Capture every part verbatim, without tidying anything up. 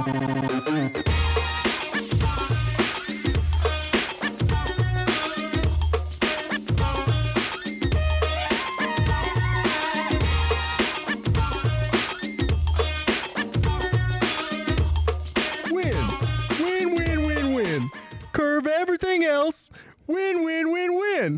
Win, win, win, win.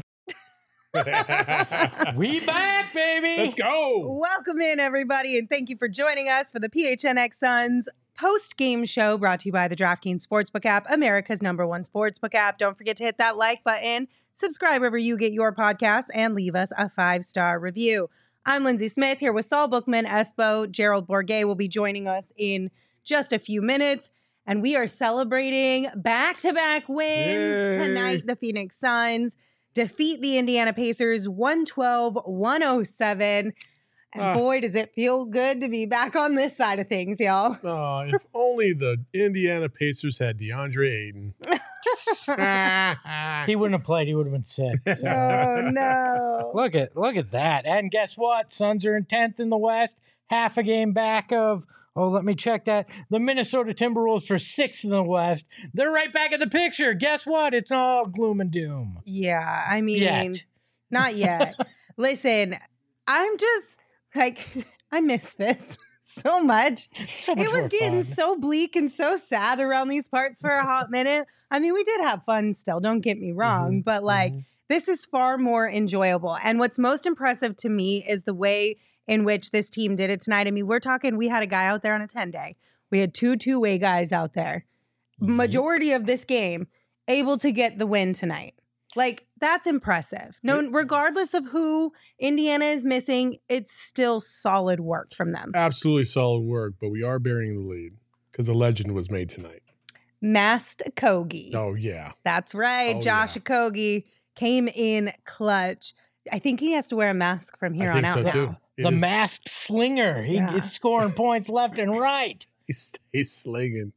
We back, baby. Let's go. Welcome in, everybody, and thank you for joining us for the P H N X Suns post-game show brought to you by the DraftKings Sportsbook app, America's number one sportsbook app. Don't forget to hit that like button, subscribe wherever you get your podcasts, and leave us a five-star review. I'm Lindsay Smith here with Saul Bookman, Espo. Gerald Bourguet will be joining us in just a few minutes. And we are celebrating back-to-back wins. Yay. Tonight. The Phoenix Suns defeat the Indiana Pacers one twelve to one oh seven. And Ah. boy, does it feel good to be back on this side of things, y'all. Oh, if only the Indiana Pacers had DeAndre Ayton. He wouldn't have played. He would have been sick. So. Oh, no. Look at look at that. And guess what? Suns are in tenth in the West, half a game back of, oh, let me check that. The Minnesota Timberwolves for sixth in the West. They're right back in the picture. Guess what? It's all gloom and doom. Yeah, I mean, Yet. not yet. Listen, I'm just like, I miss this so much. So much It was more getting fun. so bleak and so sad around these parts for a hot minute. I mean, we did have fun still, don't get me wrong, Mhm, but like, mhm. this is far more enjoyable. And what's most impressive to me is the way in which this team did it tonight. I mean, we're talking, we had a guy out there on a ten-day. We had two two-way guys out there. Mhm. Majority of this game able to get the win tonight. Like, that's impressive. No, regardless of who Indiana is missing, it's still solid work from them. Absolutely solid work, but we are burying the lead because a legend was made tonight. Masked Kogi. Oh, yeah. That's right. Oh, Josh yeah. Okogie came in clutch. I think he has to wear a mask from here I think on so, out. too. now. It The is- masked slinger. He Yeah. is scoring points left and right. He stays slinging.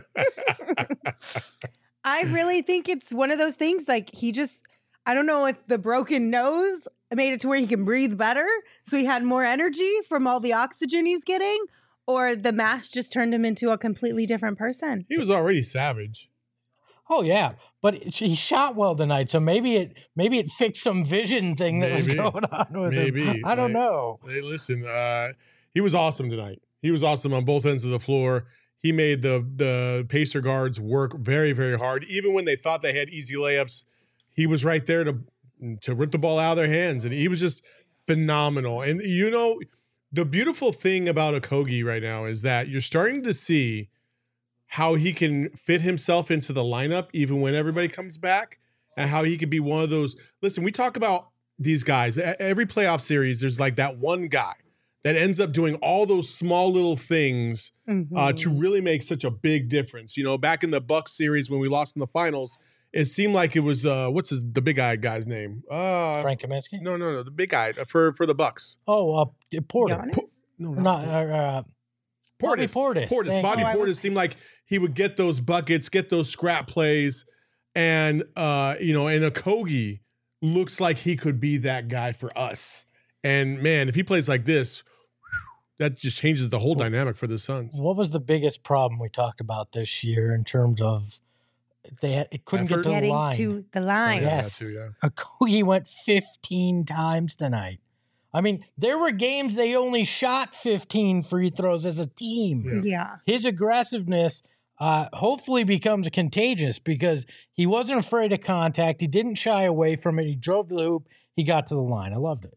I really think it's one of those things like he just, I don't know if the broken nose made it to where he can breathe better. So he had more energy from all the oxygen he's getting, or the mask just turned him into a completely different person. He was already savage. Oh yeah, but it- he shot well tonight, so maybe it maybe it fixed some vision thing that was Maybe. going on with Maybe. him. I don't Like- know. Hey, listen, uh, he was awesome tonight. He was awesome on both ends of the floor. He made the the Pacer guards work very, very hard. Even when they thought they had easy layups, he was right there to to rip the ball out of their hands, and he was just phenomenal. And you know, the beautiful thing about Okogie right now is that you're starting to see how he can fit himself into the lineup even when everybody comes back, and how he could be one of those. Listen, we talk about these guys. E- Every playoff series, there's like that one guy that ends up doing all those small little things uh, Mhm. to really make such a big difference. You know, back in the Bucks series when we lost in the finals, it seemed like it was uh, what's his the big guy guy's name? Uh, Frank Kaminsky. No, no, no, the big guy for for the Bucks. Oh, uh, Porter. Giannis? No, Not uh, uh, Bobby Portis. Portis. Portis. Thank Bobby you. Oh, I Portis was- seemed like he would get those buckets, get those scrap plays, and uh, you know, and Okogie looks like he could be that guy for us. And man, if he plays like this, that just changes the whole dynamic for the Suns. What was the biggest problem we talked about this year in terms of they had, it couldn't Effort? get to the Getting line? to the Oh, line. yeah, Yes. that too, yeah. Okogie went fifteen times tonight. I mean, there were games they only shot fifteen free throws as a team. Yeah. Yeah. His aggressiveness uh, hopefully becomes contagious because he wasn't afraid of contact. He didn't shy away from it. He drove the hoop. He got to the line. I loved it.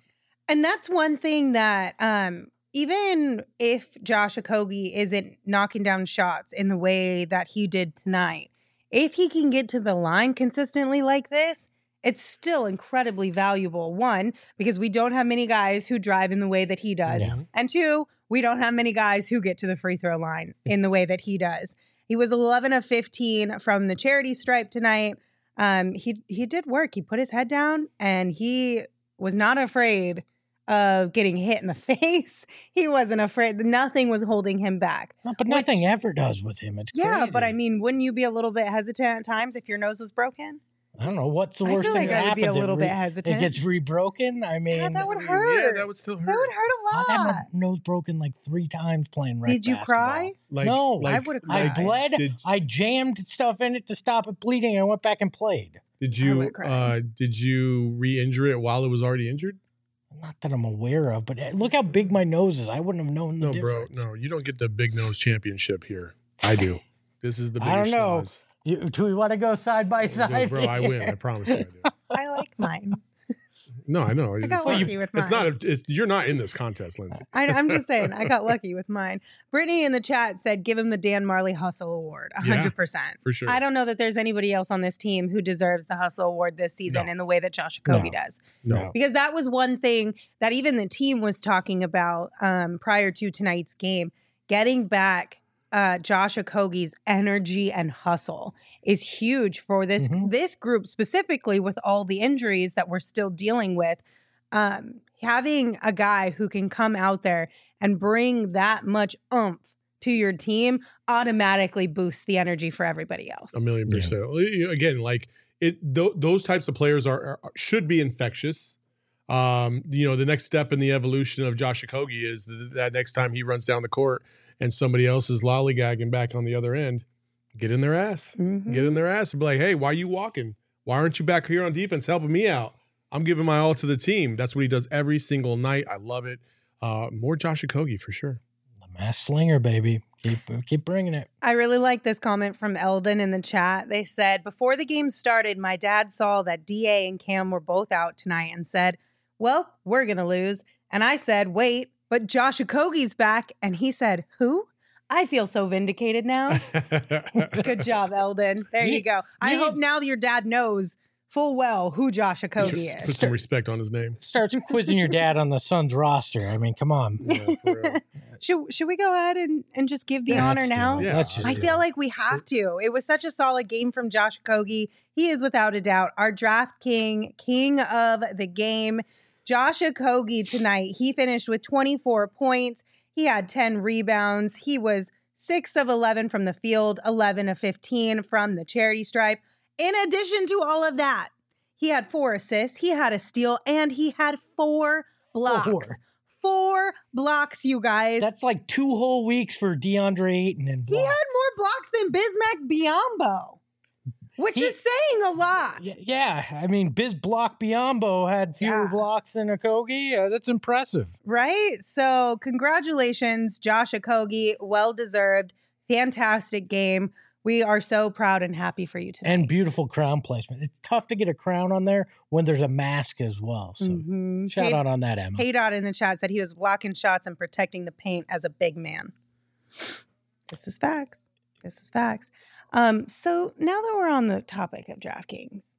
And that's one thing that um, even if Josh Okogie isn't knocking down shots in the way that he did tonight, if he can get to the line consistently like this, it's still incredibly valuable. One, because we don't have many guys who drive in the way that he does. Yeah. And two, we don't have many guys who get to the free throw line in the way that he does. He was eleven of fifteen from the charity stripe tonight. Um, he he did work. He put his head down and he was not afraid of getting hit in the face. He wasn't afraid. Nothing was holding him back. No, but Which- nothing ever does with him. It's Yeah, crazy. but I mean, wouldn't you be a little bit hesitant at times if your nose was broken? I don't know what's the I worst feel thing like that I would be happens. a It little re- bit hesitant. It gets rebroken. I mean, Yeah, that would Yeah, hurt. that would still hurt. That would hurt a I've had lot. my nose broken like three times playing rec Did you basketball. cry? Like, No, like, I would've I cried. bled. Did, I jammed stuff in it to stop it bleeding. I went back and played. did I you would've cried. uh, did you re-injure it while it was already injured? Not that I'm aware of, but look how big my nose is. I wouldn't have known the No, bro. difference. No, you don't get the big nose championship here. I do. This is the I biggest don't know. schnoz. You, do we want to go side by Yeah, side? bro, I win. I promise you I do. I like mine. No, I know. I It's got not, lucky with mine. it's not a, it's, you're not in this contest, Lindsay. I, I'm just saying, I got lucky with mine. Brittany in the chat said, give him the Dan Marley Hustle Award, one hundred percent. For sure. I don't know that there's anybody else on this team who deserves the Hustle Award this season No. in the way that Josh Okogie No. does. No. Because that was one thing that even the team was talking about um, prior to tonight's game. Getting back uh, Josh Okogie's energy and hustle is huge for this Mhm. this group specifically with all the injuries that we're still dealing with. Um, having a guy who can come out there and bring that much oomph to your team automatically boosts the energy for everybody else. A million Yeah. percent. Again, like it, th- those types of players are, are should be infectious. Um, you know, the next step in the evolution of Josh Okogie is th- that next time he runs down the court and somebody else is lollygagging back on the other end, get in their ass, Mhm. get in their ass and be like, hey, why are you walking? Why aren't you back here on defense helping me out? I'm giving my all to the team. That's what he does every single night. I love it. Uh, more Josh Okogie for sure. The mass slinger, baby. Keep keep bringing it. I really like this comment from Eldon in the chat. They said, before the game started, my dad saw that D A and Cam were both out tonight and said, well, we're going to lose. And I said, wait, but Josh Okogie's back. And he said, who? I feel so vindicated now. Good job, Eldon. There you, You- go. I you- hope now your dad knows full well who Josh Okogie Just put is. some respect on his name. Starts quizzing your dad on the Suns roster. I mean, come on. Yeah, for real. Should, should we go ahead and, and just give the Yeah, honor let's do now? it. Yeah. Let's just I do feel it. like we have to. It was such a solid game from Josh Okogie. He is without a doubt our draft king, king of the game. Josh Okogie tonight, he finished with twenty-four points. He had ten rebounds. He was six of eleven from the field, eleven of fifteen from the charity stripe. In addition to all of that, he had four assists, he had a steal, and he had four blocks. Four. Four blocks, you guys. That's like two whole weeks for DeAndre Ayton and He had blocks. more blocks than Bismack Biyombo, which He- is saying a lot. Yeah, yeah, I mean, Biz Block Biombo had fewer Yeah. blocks than Okogie. Uh, that's impressive. Right? So, congratulations, Josh Okogie. Well deserved. Fantastic game. We are so proud and happy for you today. And beautiful crown placement. It's tough to get a crown on there when there's a mask as well. So Mhm. shout Hey- out on that, Emma. Hey Dot in the chat said he was blocking shots and protecting the paint as a big man. This is facts. This is facts. Um, so now that we're on the topic of DraftKings,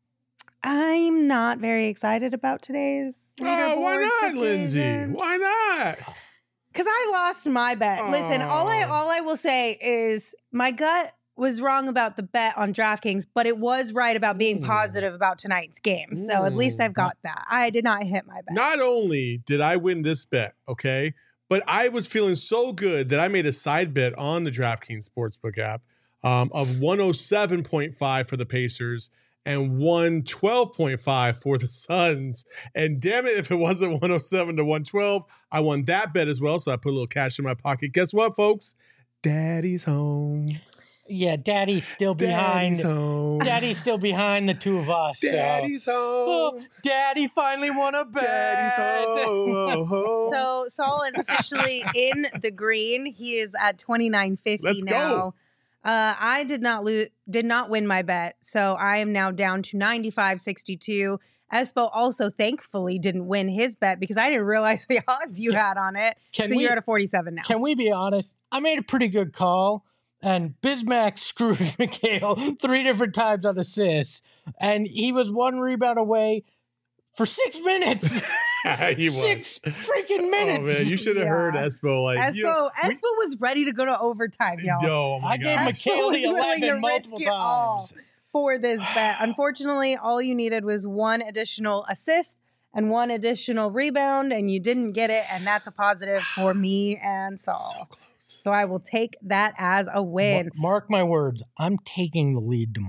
I'm not very excited about today's Oh, why leaderboard not, Lindsay? situation. Why not? Because I lost my bet. Listen, all I Oh. all I will say is my gut was wrong about the bet on DraftKings, but it was right about being Mm. positive about tonight's game. So at least Mm. I've got that. I did not hit my bet. Not only did I win this bet, okay, but I was feeling so good that I made a side bet on the DraftKings Sportsbook app um, of one oh seven point five for the Pacers and one twelve point five for the Suns. And damn it, if it wasn't one oh seven to one twelve, I won that bet as well. So I put a little cash in my pocket. Guess what, folks? Daddy's home. Yeah, Daddy's still behind. Daddy's home. Daddy's still behind the two of us. so- Daddy's Oh, home. Daddy finally won a bet. Daddy's home. So Saul is officially in the green. He is at twenty-nine fifty Let's go. now. Uh, I did not lose, did not win my bet, so I am now down to ninety-five sixty-two. Espo also thankfully didn't win his bet because I didn't realize the odds you had on it. Can so we- you're at a forty-seven now. Can we be honest? I made a pretty good call, and Bismack screwed McHale three different times on assists, and he was one rebound away for six minutes. he was. Six freaking minutes. Oh man, you should have Yeah. heard Espo. Like, Espo, you know, we- Espo was ready to go to overtime, y'all. Yo, oh my I gave God. Espo McHale was the willing to eleven risk multiple it all. times. For this bet. Unfortunately, all you needed was one additional assist and one additional rebound, and you didn't get it, and that's a positive for me and Saul. So close. So I will take that as a win. Mar- Mark my words. I'm taking the lead tomorrow night.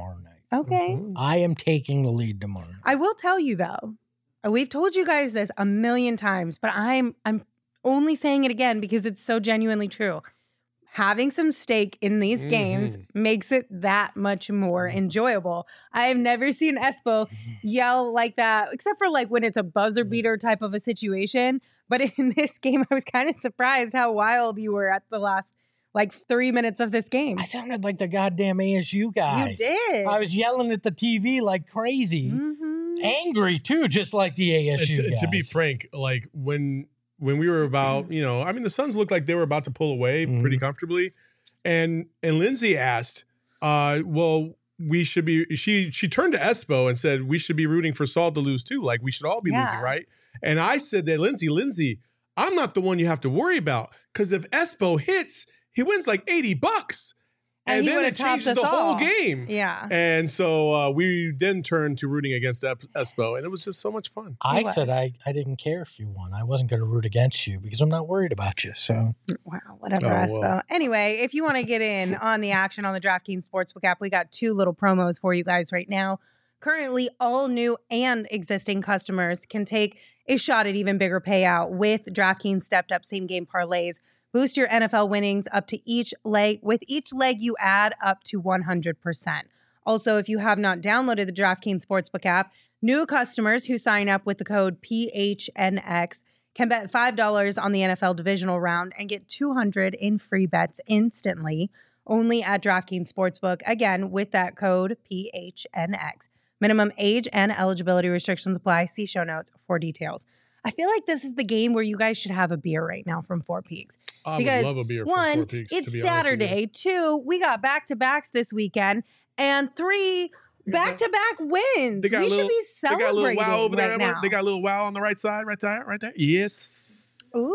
Okay. Mhm. I am taking the lead tomorrow. I will tell you though, we've told you guys this a million times, but I'm I'm only saying it again because it's so genuinely true. Having some stake in these games Mhm. makes it that much more enjoyable. I have never seen Espo yell like that, except for like when it's a buzzer beater type of a situation. But in this game, I was kind of surprised how wild you were at the last like three minutes of this game. I sounded like the goddamn A S U guys. You did. I was yelling at the T V like crazy. Mhm. Angry too, just like the A S U to, guys. to be frank, like when when we were about, you know, I mean, the Suns looked like they were about to pull away Mhm. pretty comfortably, and and Lindsay asked, uh, "Well, we should be." She she turned to Espo and said, "We should be rooting for Saul to lose too. Like we should all be Yeah. losing, right?" And I said that Lindsay, Lindsay, I'm not the one you have to worry about because if Espo hits, he wins like eighty bucks, And and, he then would've it changes topped the us whole all. game. Yeah. And so uh, we then turned to rooting against Ep- Espo, and it was just so much fun. I It said was. I, I didn't care if you won. I wasn't going to root against you because I'm not worried about you. So Wow, whatever, Oh, Espo. well. Anyway, if you want to get in on the action on the DraftKings Sportsbook app, we got two little promos for you guys right now. Currently, all new and existing customers can take a shot at even bigger payout with DraftKings stepped up same game parlays. Boost your N F L winnings up to each leg. With each leg, you add up to one hundred percent. Also, if you have not downloaded the DraftKings Sportsbook app, new customers who sign up with the code P H N X can bet five dollars on the N F L divisional round and get two hundred dollars in free bets instantly, only at DraftKings Sportsbook, again, with that code P H N X. Minimum age and eligibility restrictions apply. See show notes for details. I feel like this is the game where you guys should have a beer right now from Four Peaks. I Because, would love a beer from One, Four Peaks, it's to be honest with you. Saturday. Two, we got back-to-backs this weekend. And three, back-to-back wins. They got We a should little- be They got a little celebrating wow over right there. now. They got a little wow on the right side, right there, right there. Yes.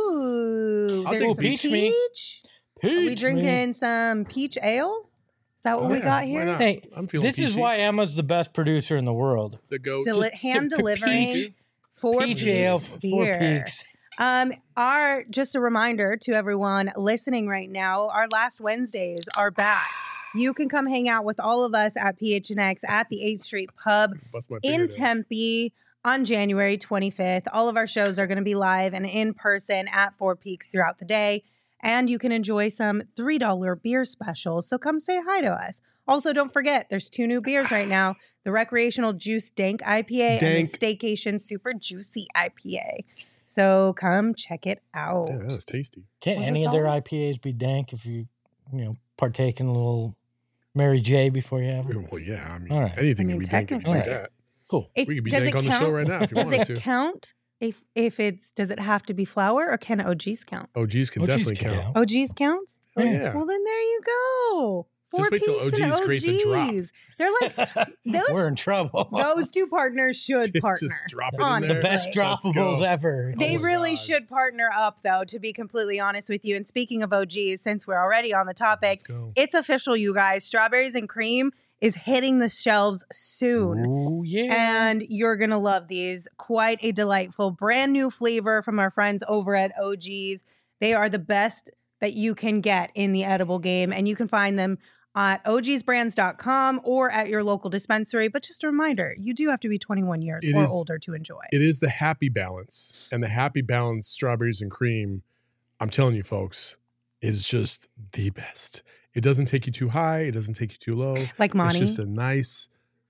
Ooh, I'll there's take some peach peach. me. Are we Peach drinking me. some peach ale? Is that what Oh, we yeah, got why here? not? Hey, I'm feeling this is peachy. why Emma's the best producer in the world. the goat. Deli- Just hand to delivering peach- Four Peach Peaks ale, Four beer. Peaks. Um, our just a reminder to everyone listening right now, our last Wednesdays are back. You can come hang out with all of us at P H N X at the eighth Street Pub Bust my in fingernails. Tempe on January twenty-fifth. All of our shows are going to be live and in person at Four Peaks throughout the day. And you can enjoy some three dollar beer specials. So come say hi to us. Also, don't forget, there's two new beers right now. The Recreational Juice Dank I P A and Dank. the Staycation Super Juicy I P A. So come check it out. Yeah, that's tasty. Can't Was any this of their all? I P As be dank if you, you know, partake in a little Mary J before you have it? Well, yeah. I mean, All right. anything I mean, can be dank if you do technically. that. Cool. If, We could be does dank it on the show count- right now if you Does wanted it to. count if if it's does it have to be flour or can O Gs count? O Gs can O Gs definitely can count. count. O Gs counts? Oh, yeah. Well, then there you go. Four Just wait till Peaks and O Gs creates a drop. O Gs. They're like those- We're in trouble. those two partners should Just partner. drop it in honestly. there. the best Let's go. droppables ever. They Oh my really God. should partner up, though, to be completely honest with you. And speaking of O Gs, since we're already on the topic, Let's go. it's official, you guys. Strawberries and cream is hitting the shelves soon. Ooh, yeah. And you're going to love these. Quite a delightful brand new flavor from our friends over at O Gs. They are the best that you can get in the edible game. And you can find them at O Gs brands dot com or at your local dispensary. But just a reminder, you do have to be twenty-one years It or is- older to enjoy. It is the happy balance, and the happy balance strawberries and cream. I'm telling you, folks, is just the best. It doesn't take you too high. It doesn't take you too low. Like Monty. It's just a nice,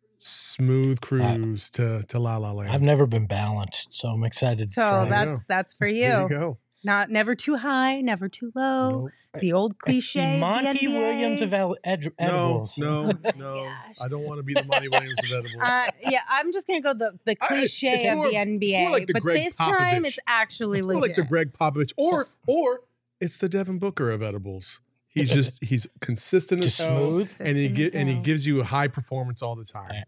smooth cruise to to La La Land. I've never been balanced, so I'm excited. to So try it. that- that's that's for There you. you go. Not never too high, never too low. Nope. The old It's cliche. the of the Monty N B A. Williams of ed- ed- No, edibles. no, no. Gosh. I don't want to be the Monty Williams of edibles. Uh, yeah, I'm just gonna go the the I- cliche it's of more the of- N B it's A, more like the but Greg this time Popovich. it's actually It's more legit. like the Greg Popovich, or or it's the Devin Booker of edibles. He's just he's consistent Just as hell, smooth. and he Consistent get as and he hell. gives you a high performance all the time. Right.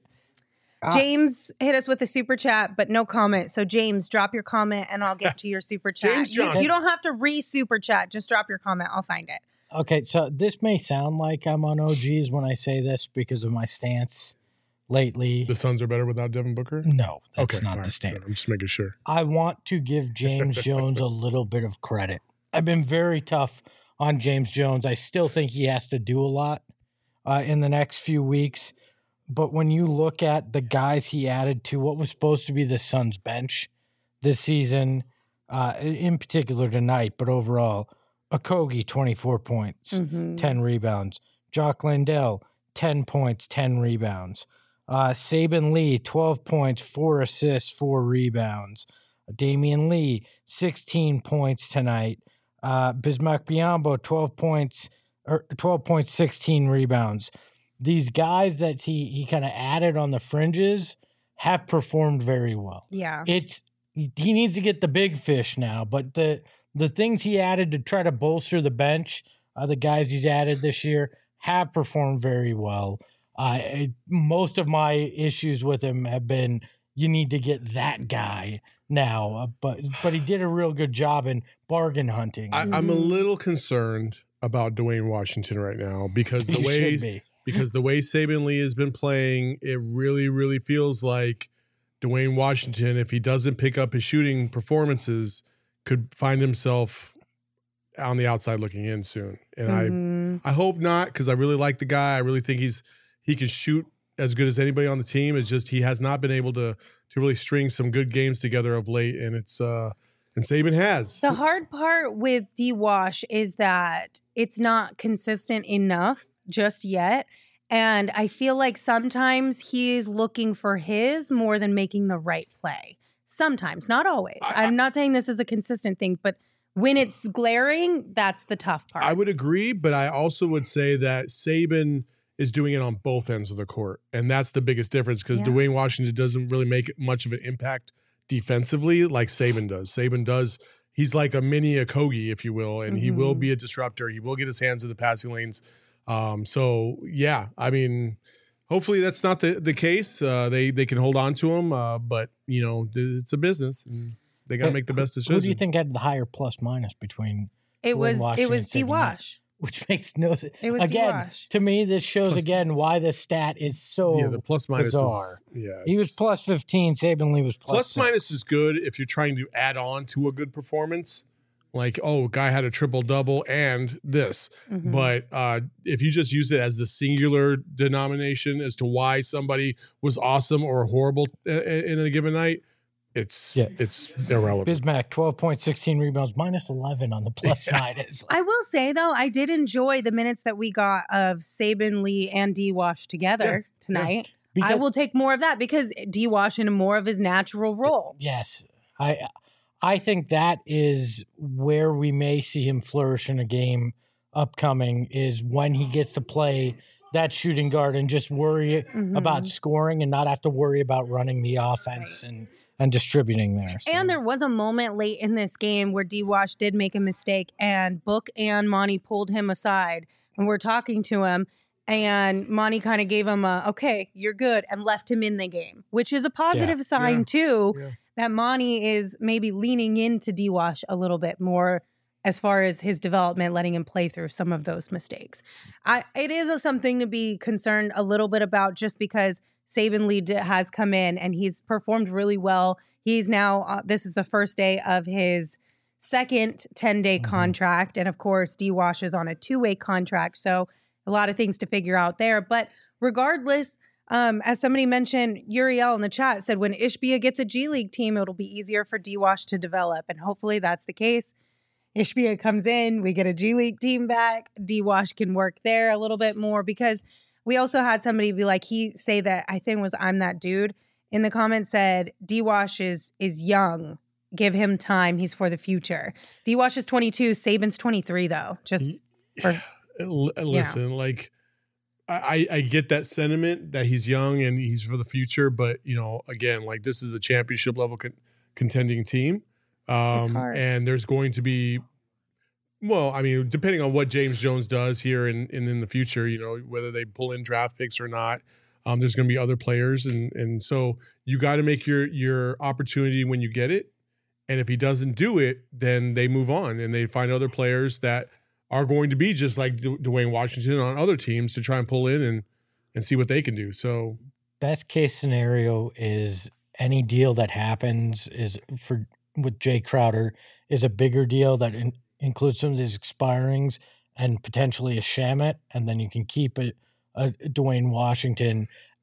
James hit us with a super chat, but no comment. So James, drop your comment and I'll get to your super chat. James you, Johnson. you don't have to re super chat. Just drop your comment. I'll find it. Okay, so this may sound like I'm on O Gs when I say this because of my stance lately. The Suns are better without Devin Booker. No, that's okay, not all the right. stance. I'm just making sure. I want to give James Jones a little bit of credit. I've been very tough on James Jones. I still think he has to do a lot uh, in the next few weeks. but when you look at the guys he added to what was supposed to be the Suns bench this season, uh, in particular tonight, but overall, Okogie, twenty-four points, Mhm. ten rebounds. Jock Landale, ten points, ten rebounds. Uh, Saban Lee, twelve points, four assists, four rebounds. Damian Lee, sixteen points tonight. Uh, Bismack Biyombo, twelve points, or twelve points, sixteen rebounds. These guys that he he kind of added on the fringes have performed very well. Yeah. It's he needs to get the big fish now, but the the things he added to try to bolster the bench, uh, the guys he's added this year have performed very well. Uh, it- most of my issues with him have been you need to get that guy now, uh, but but he did a real good job in bargain hunting. I, I'm a Mhm. little concerned about Dwayne Washington right now because the You way should be. because the way Saban Lee has been playing, it really, really feels like Dwayne Washington, if he doesn't pick up his shooting performances, could find himself on the outside looking in soon. And Mhm. I I hope not, because I really like the guy. I really think he's he can shoot as good as anybody on the team. It's just he has not been able to to really string some good games together of late, and it's uh and Saban has. The hard part with D-Wash is that it's not consistent enough just yet. And I feel like sometimes he is looking for his more than making the right play. Sometimes, not always. I- I'm not saying this is a consistent thing, but when it's glaring, that's the tough part. I would agree, but I also would say that Saban is doing it on both ends of the court, and that's the biggest difference because Yeah. Dwayne Washington doesn't really make much of an impact defensively like Saban does. Saban does. He's like a mini Okogie, if you will, and he will Mhm. be a disruptor. He will get his hands in the passing lanes. Um, so yeah, I mean, hopefully that's not the the case. Uh, they they can hold on to him, uh, but you know, th- it's a business. And they got to Hey, make the best Who decision. do you think had the higher plus minus between, it Dwayne was it Washington was and Saban Lee? D-Wash. which makes no sense. It was Again, D-Wash. to me, this shows Plus- again why this stat is so. Yeah, the plus minus bizarre. is yeah. he was it's- plus fifteen. Saban Lee was plus plus six. minus is good if you're trying to add on to a good performance. Like, oh, guy had a triple double and this. Mhm. But uh, if you just use it as the singular denomination as to why somebody was awesome or horrible uh, in a given night, it's Yeah. it's irrelevant. Bismack, twelve points, sixteen rebounds, minus eleven on the plus minus. I will say though, I did enjoy the minutes that we got of Saban Lee and D-Wash together tonight. I Because- will take more of that because D-Wash in more of his natural role. Yes, I I think that is where we may see him flourish in a game upcoming is when he gets to play that shooting guard and just worry Mhm. about scoring and not have to worry about running the offense and and distributing there. So- And there was a moment late in this game where D-Wash did make a mistake and Book and Monty pulled him aside and we're talking to him and Monty kind of gave him a, okay, you're good and left him in the game, which is a positive sign Yeah. too, Yeah. that Monty is maybe leaning into D-Wash a little bit more as far as his development, letting him play through some of those mistakes. I, it is a, something to be concerned a little bit about just because Saban Lee d- has come in and he's performed really well. He's now, uh, this is the first day of his second ten-day Mhm. contract. And of course, D-Wash is on a two-way contract. So a lot of things to figure out there. But regardless, um, as somebody mentioned, Uriel in the chat said when Ishbia gets a G League team, it'll be easier for D-Wash to develop. And hopefully that's the case. Ishbia comes in, we get a G League team back. D-Wash can work there a little bit more because we also had somebody be like, he say that I think it was I'm that dude in the comments said D-Wash is is young. Give him time. He's for the future. D-Wash is twenty-two. Saban's twenty-three though. Just for, L- Listen, like I, I get that sentiment that he's young and he's for the future, but you know, again, like this is a championship level con- contending team, um, hard. and there's going to be, well, I mean, depending on what James Jones does here and in, in, in the future, you know, whether they pull in draft picks or not, um, there's going to be other players, and and so you got to make your your opportunity when you get it, and if he doesn't do it, then they move on and they find other players that are going to be just like Du- Dwayne Washington on other teams to try and pull in and and see what they can do. So best case scenario is any deal that happens is for with Jay Crowder is a bigger deal that in, includes some of these expirings and potentially a Shamet, and then you can keep a, a Dwayne Washington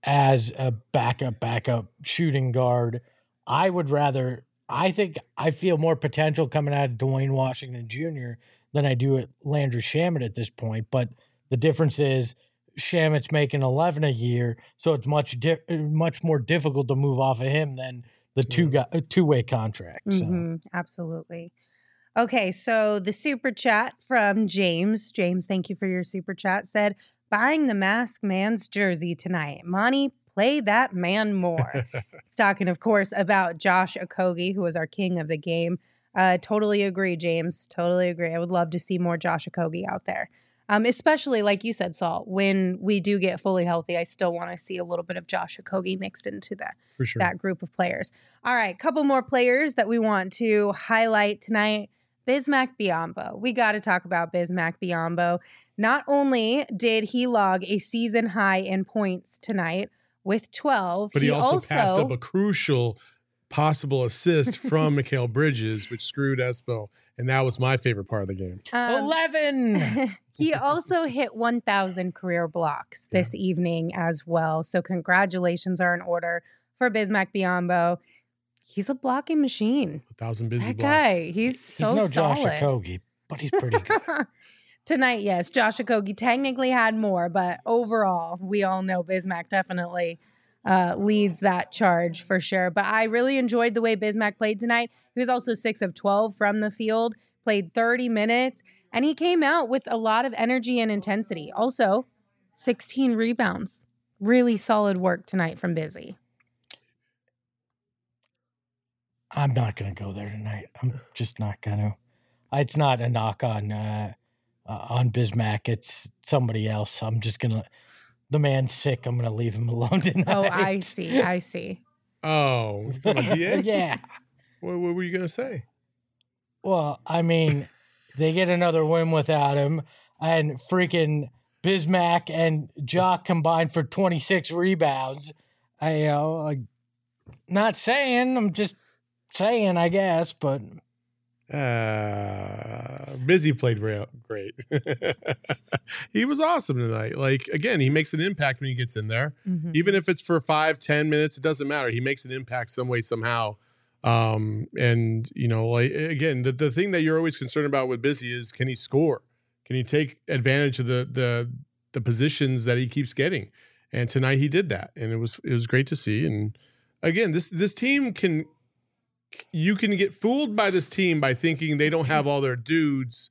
as a backup, backup shooting guard. I would rather, I think I feel more potential coming out of Dwayne Washington Junior than I do at Landry Shamet at this point. But the difference is Shamet's making eleven a year, so it's much di- much more difficult to move off of him than the two guy, two way contract. So. Mm-hmm, absolutely. Okay, so the super chat from James. James, thank you for your super chat. Said, buying the Masked Man's jersey tonight. Monty, play that man more. He's talking, of course, about Josh Okogie, who was our king of the game. Uh, totally agree, James. Totally agree. I would love to see more Josh Okogie out there. Um, especially, like you said, Saul, when we do get fully healthy, I still want to see a little bit of Josh Okogie mixed into that, For sure. that group of players. All right, couple more players that we want to highlight tonight. Bismack Biyombo. We got to talk about Bismack Biyombo. Not only did he log a season high in points tonight with twelve, but he, he also, also passed up a crucial possible assist from Mikal Bridges, which screwed Espo. And that was my favorite part of the game. um, eleven. He also hit one thousand career blocks this yeah. evening as well. So congratulations are in order for Bismack Biyombo. He's a blocking machine. A thousand busy that blocks. guy, he's so he's no solid. Josh Okogie, but he's pretty good. Tonight, yes, Josh Okogie technically had more, but overall, we all know Bismack definitely uh, leads that charge for sure. But I really enjoyed the way Bismack played tonight. He was also six of twelve from the field, played thirty minutes, and he came out with a lot of energy and intensity. Also, sixteen rebounds. Really solid work tonight from Busy. I'm not going to go there tonight. I'm just not going to. It's not a knock on uh, uh, on Bismack. It's somebody else. I'm just going to. The man's sick. I'm going to leave him alone tonight. Oh, I see. I see. Oh, you talking about D A? Yeah. What, what were you going to say? Well, I mean, they get another win without him, and freaking Bismack and Jock combined for twenty-six rebounds. I, you know, like, not saying. I'm just saying, I guess, but uh, Busy played real great. He was awesome tonight. Like, again, he makes an impact when he gets in there, mm-hmm. even if it's for five, ten minutes. It doesn't matter. He makes an impact some way, somehow. Um, and you know, like again, the, the thing that you're always concerned about with Busy is, can he score? Can he take advantage of the the the positions that he keeps getting? And tonight he did that, and it was it was great to see. And again, this this team can you can get fooled by this team by thinking they don't have all their dudes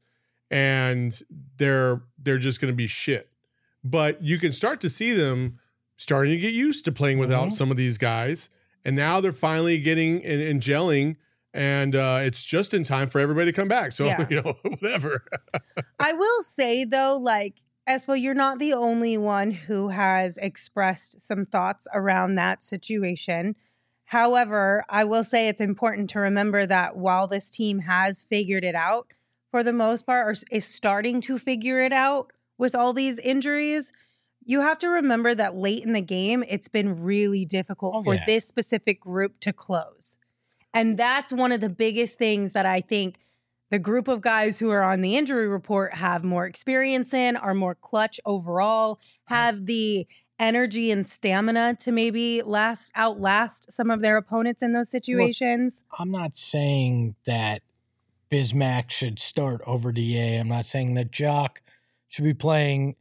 and they're they're just going to be shit. But you can start to see them starting to get used to playing without mm-hmm. some of these guys. And now they're finally getting and, and gelling, and uh, it's just in time for everybody to come back. So, yeah. you know, whatever. I will say, though, like, Espo, you're not the only one who has expressed some thoughts around that situation. However, I will say it's important to remember that while this team has figured it out for the most part, or is starting to figure it out with all these injuries, you have to remember that late in the game, it's been really difficult oh, for yeah. this specific group to close. And that's one of the biggest things that I think the group of guys who are on the injury report have more experience in, are more clutch overall, have the energy and stamina to maybe last outlast some of their opponents in those situations. Look, I'm not saying that Bismack should start over D A. I'm not saying that Jock should be playing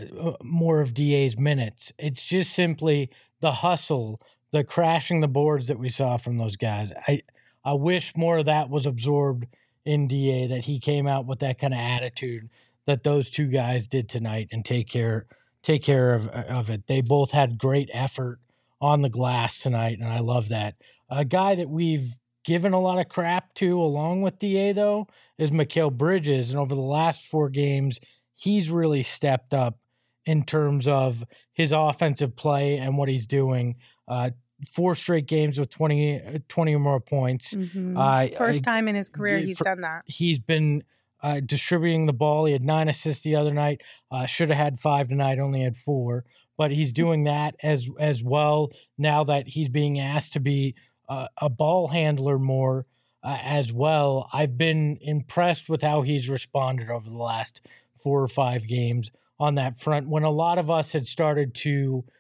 more of D A's minutes. It's just simply the hustle, the crashing the boards that we saw from those guys. I I wish more of that was absorbed in D A, that he came out with that kind of attitude that those two guys did tonight and take care take care of, of it. They both had great effort on the glass tonight, and I love that. A guy that we've given a lot of crap to along with D A, though, is Mikal Bridges, and over the last four games, he's really stepped up in terms of his offensive play and what he's doing. Uh, four straight games with twenty, twenty or more points. Mm-hmm. Uh, First I, time in his career he's for, done that. He's been uh, distributing the ball. He had nine assists the other night. Uh, should have had five tonight, only had four. But he's doing that as as well now that he's being asked to be uh, a ball handler more uh, as well. I've been impressed with how he's responded over the last four or five games on that front, when a lot of us had started to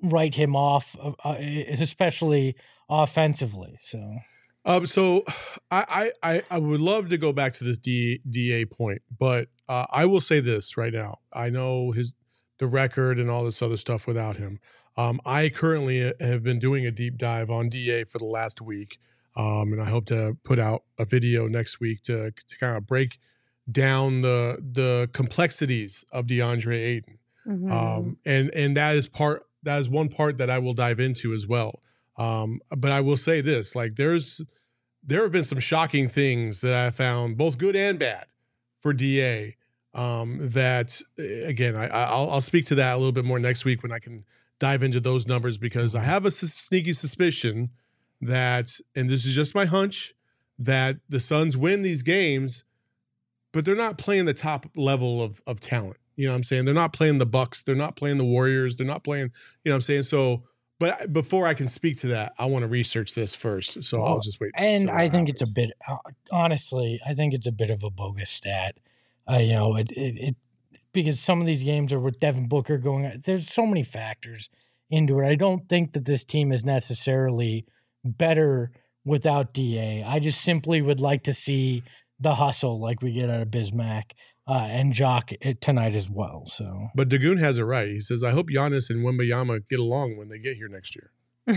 write him off, uh, especially offensively. So, um, so I, I I would love to go back to this D, DA point, but uh, I will say this right now. I know his the record and all this other stuff without him. Um, I currently have been doing a deep dive on D A for the last week, um, and I hope to put out a video next week to to kind of break down the the complexities of DeAndre Ayton. Mm-hmm. Um, and and that is part that is one part that I will dive into as well. Um, but I will say this: like, there's there have been some shocking things that I found, both good and bad, for D A. Um, that again, I, I'll I'll speak to that a little bit more next week when I can dive into those numbers, because I have a s- sneaky suspicion that, and this is just my hunch, that the Suns win these games, but they're not playing the top level of of talent. You know what I'm saying? They're not playing the Bucks. They're not playing the Warriors. They're not playing, you know what I'm saying? So, but before I can speak to that, I want to research this first. So well, I'll just wait. And I think happens. It's a bit, honestly, I think it's a bit of a bogus stat. Uh, you know, it, it, it, because some of these games are with Devin Booker going on. There's so many factors into it. I don't think that this team is necessarily better without D A. I just simply would like to see the hustle like we get out of Bismack. Uh, and Jock tonight as well. So, but Dagoon has it right. He says, "I hope Giannis and Wembanyama get along when they get here next year."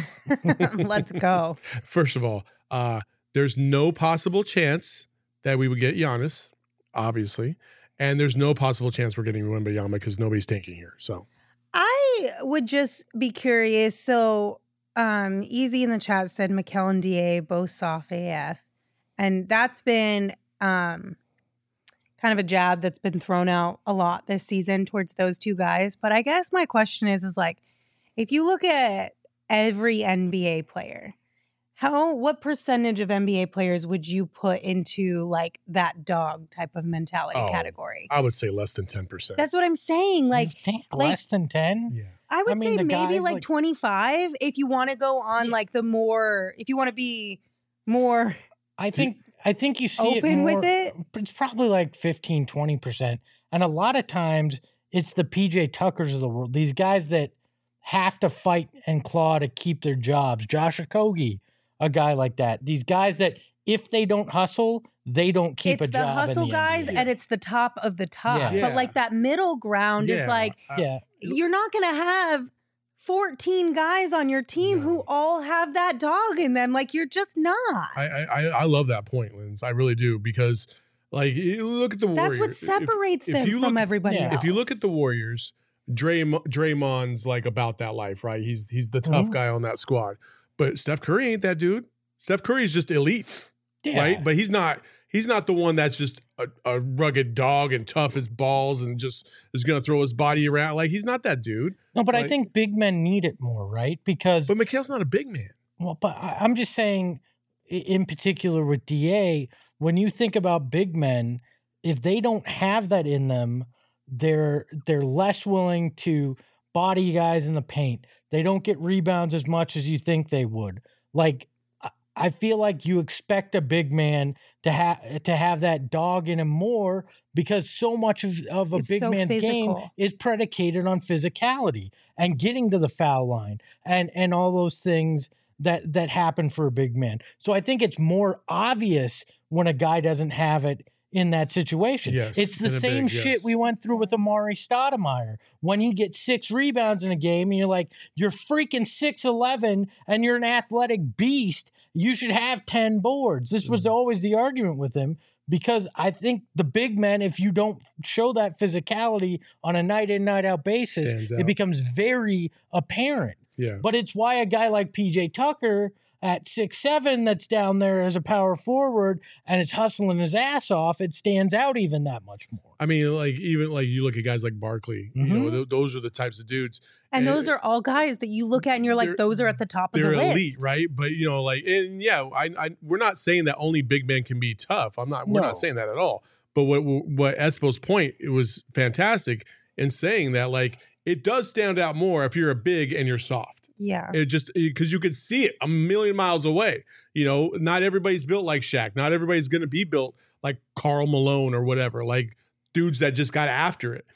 Let's go. First of all, uh, there's no possible chance that we would get Giannis, obviously, and there's no possible chance we're getting Wembanyama because nobody's tanking here. So, I would just be curious. So, um, Easy in the chat said Mikal and D A both soft A F, and that's been um. kind of a jab that's been thrown out a lot this season towards those two guys. But I guess my question is, is like, if you look at every N B A player, how, what percentage of N B A players would you put into like that dog type of mentality oh, category? I would say less than ten percent. That's what I'm saying. Like, you think like less than ten? Yeah. I would I mean, say maybe like, like twenty-five if you want to go on yeah. like the more, if you want to be more. I think I think you see open it more, with it. It's probably like fifteen, twenty percent. And a lot of times it's the P J Tuckers of the world. These guys that have to fight and claw to keep their jobs. Josh Okogie, a guy like that. These guys that if they don't hustle, they don't keep it's a job. It's the hustle in the guys, N B A. and it's the top of the top. Yeah. But Yeah. like that middle ground Yeah. is like, yeah. you're not going to have fourteen guys on your team No. who all have that dog in them. Like, you're just not. I, I I love that point, Linz. I really do, because like, you look at the That's Warriors. what If- separates if them you from look- everybody yeah. else. If you look at the Warriors, Draymond, Draymond's like about that life, right? He's he's the tough Mhm. guy on that squad. But Steph Curry ain't that dude. Steph Curry's just elite, Yeah. right? But he's not he's not the one that's just a, a rugged dog and tough as balls and just is going to throw his body around. Like, he's not that dude. No, but I like- think big men need it more, right? Because But Mikhail's not a big man. well, but I- I'm just saying, i- in particular with D A, when you think about big men, if they don't have that in them, they're they're less willing to body guys in the paint. They don't get rebounds as much as you think they would. Like, I- I feel like you expect a big man to have to have that dog in him more, because so much of, of a It's big so man's game physical. is predicated on physicality and getting to the foul line and and all those things that that happen for a big man. So I think it's more obvious when a guy doesn't have it in that situation. Yes, It's the in a same big, shit yes. we went through with Amari Stoudemire. When he gets six rebounds in a game and you're like, you're freaking six eleven and you're an athletic beast, you should have ten boards. This was Mhm. always the argument with him, because I think the big men, if you don't show that physicality on a night in, night out basis, Stands it out. becomes very apparent. Yeah. But it's why a guy like P J Tucker at six seven that's down there as a power forward and it's hustling his ass off, it stands out even that much more. I mean, like, even like you look at guys like Barkley, you know, Mhm. th- those are the types of dudes. and and those are all guys that you look at and you're like, they're- those are at the top of They're the list. elite, right? But you know, like, and yeah, I, I, we're not saying that only big men can be tough. I'm not. We're No. not saying that at all. But what what Espo's point, it was fantastic in saying that, like, it does stand out more if you're a big and you're soft. Yeah. It just because you could see it a million miles away. You know, not everybody's built like Shaq. Not everybody's going to be built like Karl Malone or whatever. Like dudes that just got after it.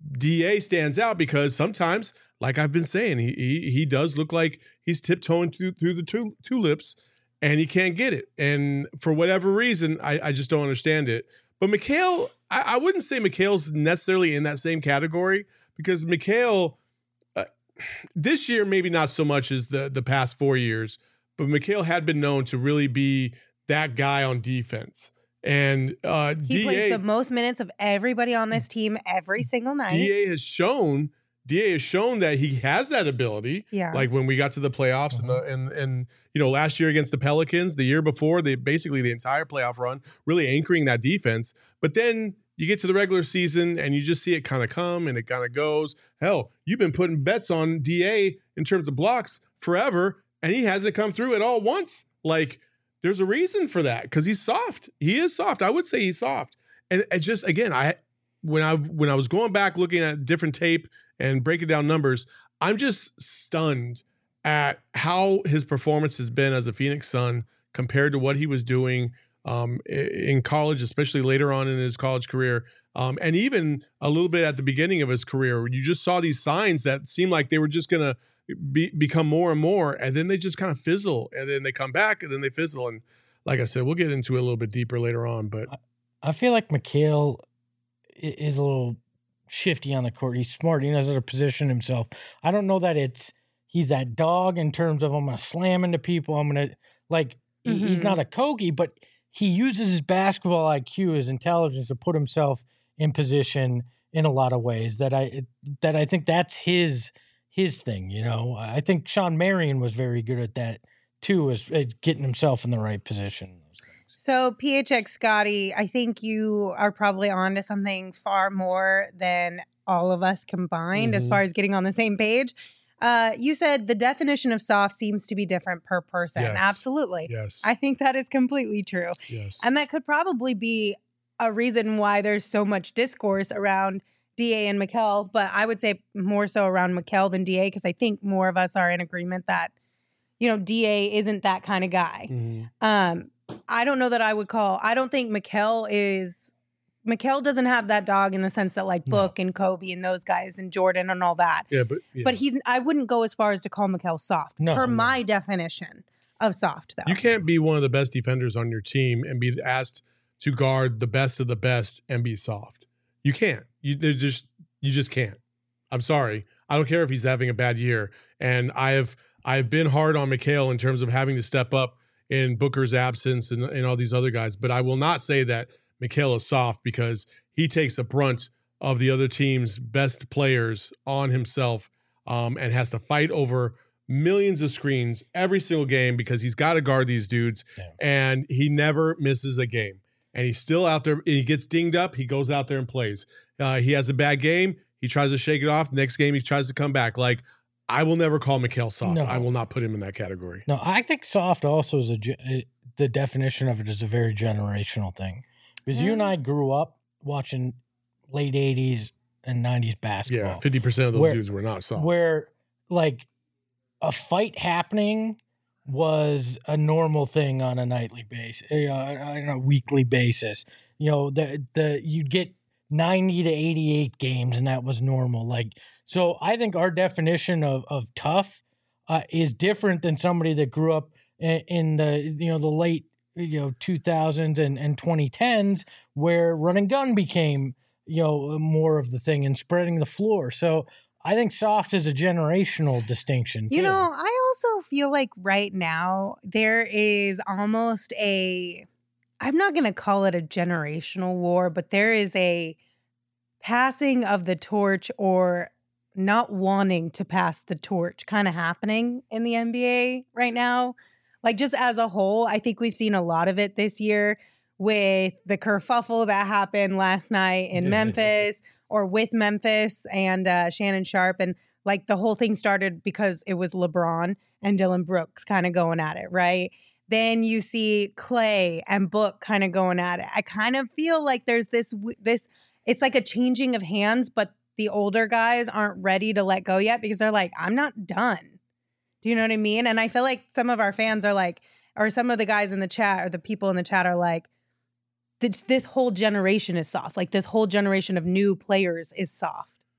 D A stands out because sometimes, like I've been saying, he he, he does look like he's tiptoeing through, through the tul- tulips and he can't get it. And for whatever reason, I, I just don't understand it. But Mikal, I, I wouldn't say Mikal's necessarily in that same category because Mikal, uh, this year, maybe not so much as the, the past four years, but Mikal had been known to really be that guy on defense. And uh, he D A, plays the most minutes of everybody on this team every single night. D A has shown D A has shown that he has that ability. Yeah. Like when we got to the playoffs uh-huh. and the and and you know last year against the Pelicans, the year before, they basically the entire playoff run, really anchoring that defense. But then you get to the regular season and you just see it kind of come and it kind of goes. Hell, you've been putting bets on D A in terms of blocks forever, and he hasn't come through at all once. Like there's a reason for that because he's soft. He is soft. I would say he's soft. And it just again, I when I when I was going back looking at different tape and breaking down numbers, I'm just stunned at how his performance has been as a Phoenix Sun compared to what he was doing um, in college, especially later on in his college career, um, and even a little bit at the beginning of his career. You just saw these signs that seemed like they were just going to be, become more and more, and then they just kind of fizzle, and then they come back, and then they fizzle. And like I said, we'll get into it a little bit deeper later on. But I feel like Mikal is a little shifty on the court. He's smart. He knows how to position himself. I don't know that it's he's that dog in terms of I'm going to slam into people. I'm going to like mm-hmm. he's not a Kobe, but he uses his basketball I Q, his intelligence to put himself in position in a lot of ways that I that I think that's his his thing. You know, I think Sean Marion was very good at that too, as, as getting himself in the right position. So P H X Scotty, I think you are probably on to something far more than all of us combined mm-hmm. as far as getting on the same page. Uh, you said the definition of soft seems to be different per person. Yes. Absolutely. Yes. I think that is completely true. Yes. And that could probably be a reason why there's so much discourse around D A and Mikal, but I would say more so around Mikal than D A because I think more of us are in agreement that, you know, D A isn't that kind of guy. Mm-hmm. Um, I don't know that I would call, I don't think Mikal is, Mikal doesn't have that dog in the sense that like Book no. and Kobe and those guys and Jordan and all that. Yeah, but yeah. But he's, I wouldn't go as far as to call Mikal soft no, per no. my definition of soft though. You can't be one of the best defenders on your team and be asked to guard the best of the best and be soft. You can't. You there's just you just can't. I'm sorry. I don't care if he's having a bad year. And I have I've been hard on Mikal in terms of having to step up in Booker's absence and, and all these other guys. But I will not say that Mikal is soft because he takes a brunt of the other team's best players on himself um, and has to fight over millions of screens every single game because he's got to guard these dudes. Yeah. And he never misses a game. And he's still out there. He gets dinged up. He goes out there and plays. Uh, he has a bad game. He tries to shake it off. Next game, he tries to come back. Like, I will never call Mikal soft. No. I will not put him in that category. No, I think soft also is a, the definition of it is a very generational thing. Because mm. you and I grew up watching late eighties and nineties basketball. Yeah, fifty percent of those where, dudes were not soft. Where, like, a fight happening was a normal thing on a nightly basis, uh, on a weekly basis. You know, the the you'd get ninety to eighty-eight games, and that was normal. Like, so I think our definition of of tough uh, is different than somebody that grew up in, in the you know the late you know two thousands and and twenty tens, where run and gun became you know more of the thing and spreading the floor. So I think soft is a generational distinction. You too. know, I also feel like right now there is almost a, I'm not going to call it a generational war, but there is a passing of the torch or not wanting to pass the torch kind of happening in the N B A right now. Like just as a whole, I think we've seen a lot of it this year with the kerfuffle that happened last night in Memphis. Or with Memphis and uh, Shannon Sharpe. And like the whole thing started because it was LeBron and Dylan Brooks kind of going at it, right? Then you see Clay and Book kind of going at it. I kind of feel like there's this, this, it's like a changing of hands, but the older guys aren't ready to let go yet because they're like, I'm not done. Do you know what I mean? And I feel like some of our fans are like, or some of the guys in the chat or the people in the chat are like, This, this whole generation is soft. Like this whole generation of new players is soft.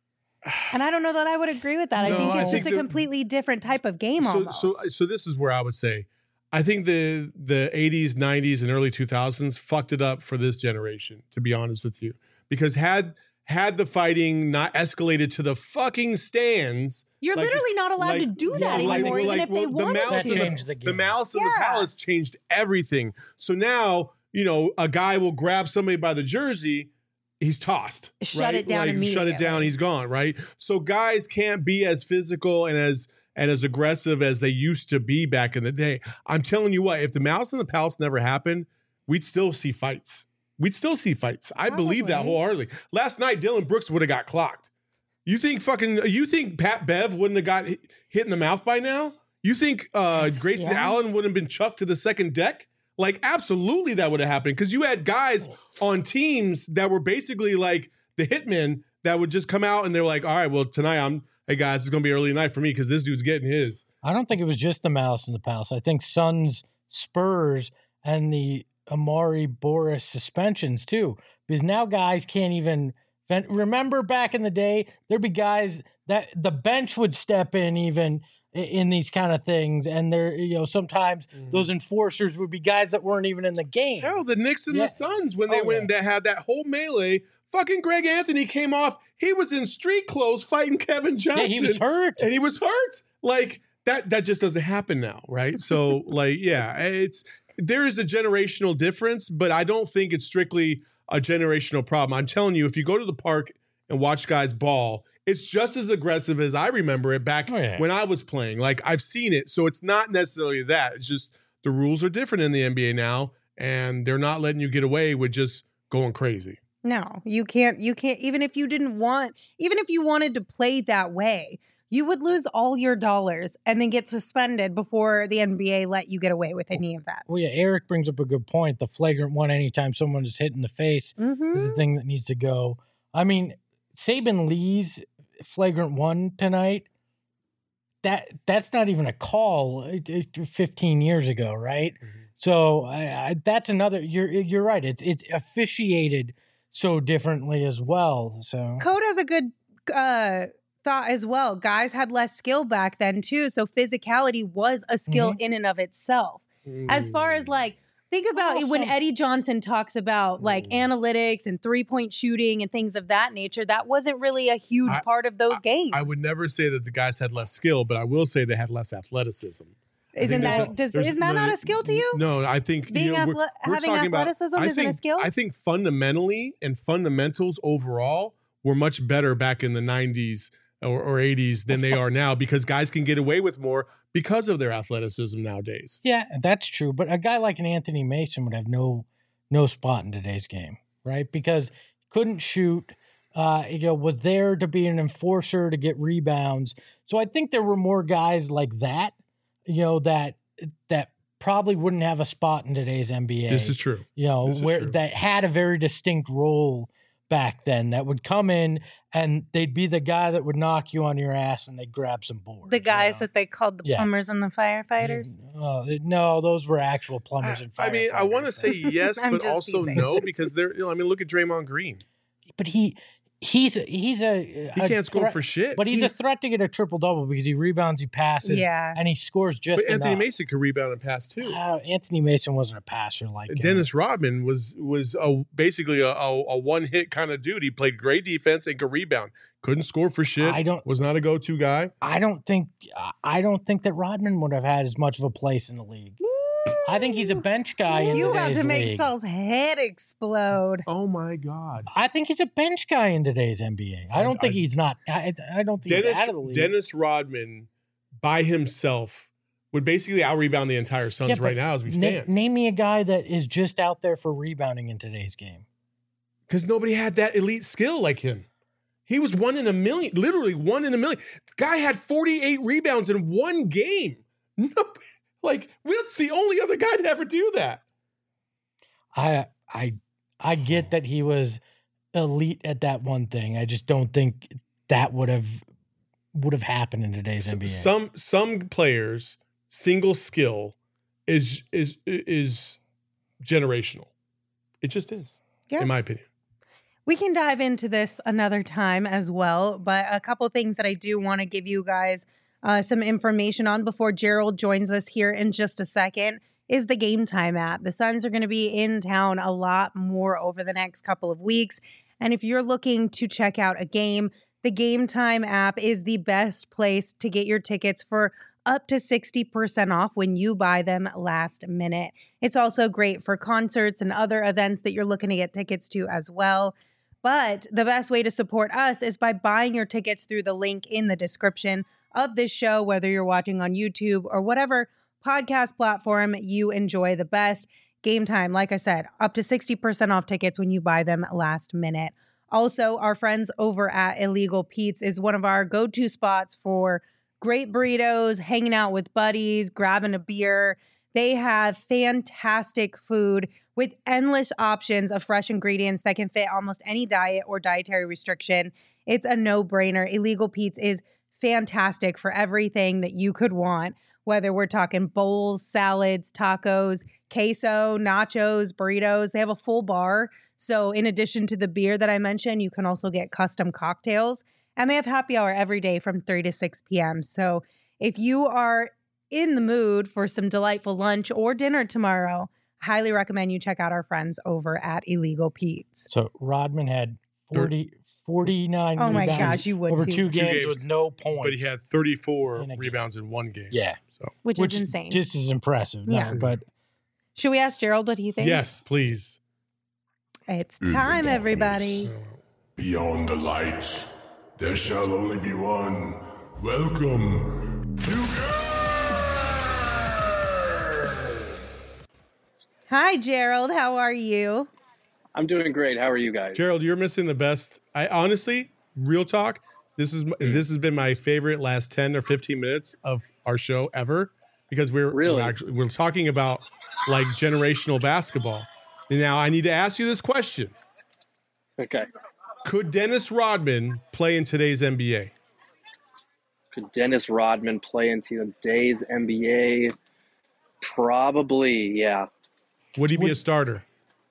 And I don't know that I would agree with that. No, I think I it's think just a the- completely different type of game so, almost. so, so this is where I would say, I think the the eighties, nineties, and early two thousands fucked it up for this generation. To be honest with you, because had had the fighting not escalated to the fucking stands, You're like- literally not allowed like- to do yeah, that like- anymore, even like, if they well, the wanted mouse That to. and changed the game. The Malice and the Yeah. Palace changed everything. So now, you know, a guy will grab somebody by the jersey, he's tossed. Shut right? it down Like, shut it down, immediately. he's gone, right? So guys can't be as physical and as and as aggressive as they used to be back in the day. I'm telling you what, if the Malice and the Palace never happened, we'd still see fights. We'd still see fights. I believe that Probably. wholeheartedly. Last night, Dylan Brooks would have got clocked. You think fucking, you think Pat Bev wouldn't have got hit, hit in the mouth by now? You think uh, Yes, Grayson yeah. Allen wouldn't have been chucked to the second deck? Like, absolutely that would have happened because you had guys on teams that were basically like the hitmen that would just come out and they're like, all right, well, tonight I'm, hey guys, it's going to be early night for me because this dude's getting his. I don't think it was just the Malice in the Palace. I think Suns, Spurs, and the Amari Boris suspensions too, because now guys can't even. vent- Remember back in the day, there'd be guys that the bench would step in even i- in these kind of things, and there, you know, sometimes Mhm. those enforcers would be guys that weren't even in the game. Hell, the Knicks and Yeah. the Suns, when they Oh, went yeah. and they had that whole melee, fucking Greg Anthony came off. He was in street clothes fighting Kevin Yeah, Johnson. he was hurt. and he was hurt. Like that that just doesn't happen now, right? So like yeah, it's there is a generational difference, but I don't think it's strictly a generational problem. I'm telling you, if you go to the park and watch guys ball, it's just as aggressive as I remember it back Oh, yeah. when I was playing. Like I've seen it. So it's not necessarily that. It's just the rules are different in the N B A now, and they're not letting you get away with just going crazy. No, you can't. You can't. Even if you didn't want, even if you wanted to play that way, you would lose all your dollars and then get suspended before the N B A let you get away with any of that. Well, yeah, Eric brings up a good point. The flagrant one, anytime someone is hit in the face, Mm-hmm. is the thing that needs to go. I mean, Saban Lee's flagrant one tonight, that that's not even a call uh, uh, fifteen years ago, right? So I, I, that's another. You're you're right. It's it's officiated so differently as well. So Code has a good uh, thought as well. Guys had less skill back then too, so physicality was a skill Mm-hmm. in and of itself. As far as like, think about it when Also- Eddie Johnson talks about like Mm. analytics and three point shooting and things of that nature. That wasn't really a huge I- part of those games. I would never say that the guys had less skill, but I will say they had less athleticism. I think Isn't there's that a- does, there's- isn't that no, not a skill to you? No, I think Being you know, we're- athle- we're having talking about- athleticism I isn't a think- skill? I think fundamentally and fundamentals overall were much better back in the nineties or, or eighties than they are now because guys can get away with more because of their athleticism nowadays. yeah, that's true. But a guy like an Anthony Mason would have no no spot in today's game, right? Because couldn't shoot. Uh, you know, was there to be an enforcer to get rebounds. So I think there were more guys like that, you know, that that probably wouldn't have a spot in today's N B A. This is true. you know, this is where true. that had a very distinct role back then that would come in and they'd be the guy that would knock you on your ass and they'd grab some boards. The guys you know? that they called the Yeah. plumbers and the firefighters. Uh, no, those were actual plumbers and I mean, I want to firefighters. say yes, I'm but just also teasing. no because they're. You know, I mean, look at Draymond Green. but he he's a, he's a He a can't score threat- for shit. but he's, He's- a threat to get a triple double because he rebounds, he passes, Yeah. and he scores just But Anthony enough. Mason could rebound and pass too. Uh, Anthony Mason wasn't a passer like uh, Dennis Rodman was was a, basically a, a, a one hit kind of dude. He played great defense and could rebound. Couldn't score for shit. I don't- was not a go to guy. I don't think I don't think that Rodman would have had as much of a place in the league. I think he's a bench guy in You about today's to make league. Saul's head explode. Oh my god. I think he's a bench guy in today's N B A. I don't I- think he's not. I, I don't think Dennis he's out of the league. Dennis Rodman by himself would basically out rebound the entire Suns Yeah, but right now as we Na- stand. name me a guy that is just out there for rebounding in today's game. Because nobody had that elite skill like him. He was one in a million, literally one in a million. Guy had forty-eight rebounds in one game. No, like Wilt's the only other guy to ever do that. I I I get that he was elite at that one thing. I just don't think that would have would have happened in today's N B A. Some some players single skill is is is generational. It just is, Yeah. in my opinion. We can dive into this another time as well, but a couple things that I do want to give you guys uh, some information on before Gerald joins us here in just a second is the Game Time app. The Suns are going to be in town a lot more over the next couple of weeks, and if you're looking to check out a game, the Game Time app is the best place to get your tickets for up to sixty percent off when you buy them last minute. It's also great for concerts and other events that you're looking to get tickets to as well. But the best way to support us is by buying your tickets through the link in the description of this show, whether you're watching on YouTube or whatever podcast platform you enjoy the best. Game Time, like I said, up to sixty percent off tickets when you buy them last minute. Also, our friends over at Illegal Pete's is one of our go-to spots for great burritos, hanging out with buddies, grabbing a beer. They have fantastic food with endless options of fresh ingredients that can fit almost any diet or dietary restriction. It's a no-brainer. Illegal Pete's is fantastic for everything that you could want, whether we're talking bowls, salads, tacos, queso, nachos, burritos. They have a full bar. So in addition to the beer that I mentioned, you can also get custom cocktails. And they have happy hour every day from three to six p.m. So if you are in the mood for some delightful lunch or dinner tomorrow, highly recommend you check out our friends over at Illegal Pete's. So Rodman had forty, forty-nine Oh my rebounds gosh, you would over too. two games, games, with no points. But he had thirty-four In a game. rebounds in one game. Yeah. So Which, Which is insane. Just as impressive. Yeah. No, but Should we ask Gerald what he thinks? yes, please. It's time, everybody. Beyond the lights, there shall only be one. Welcome to Hi, Gerald. How are you? I'm doing great. How are you guys? Gerald, you're missing the best. I honestly, real talk, this is this has been my favorite last ten or fifteen minutes of our show ever because we're Really? we're, actually, we're talking about like generational basketball. And now I need to ask you this question. Okay. Could Dennis Rodman play in today's N B A? Could Dennis Rodman play into today's N B A? Probably, yeah. Would he be a starter?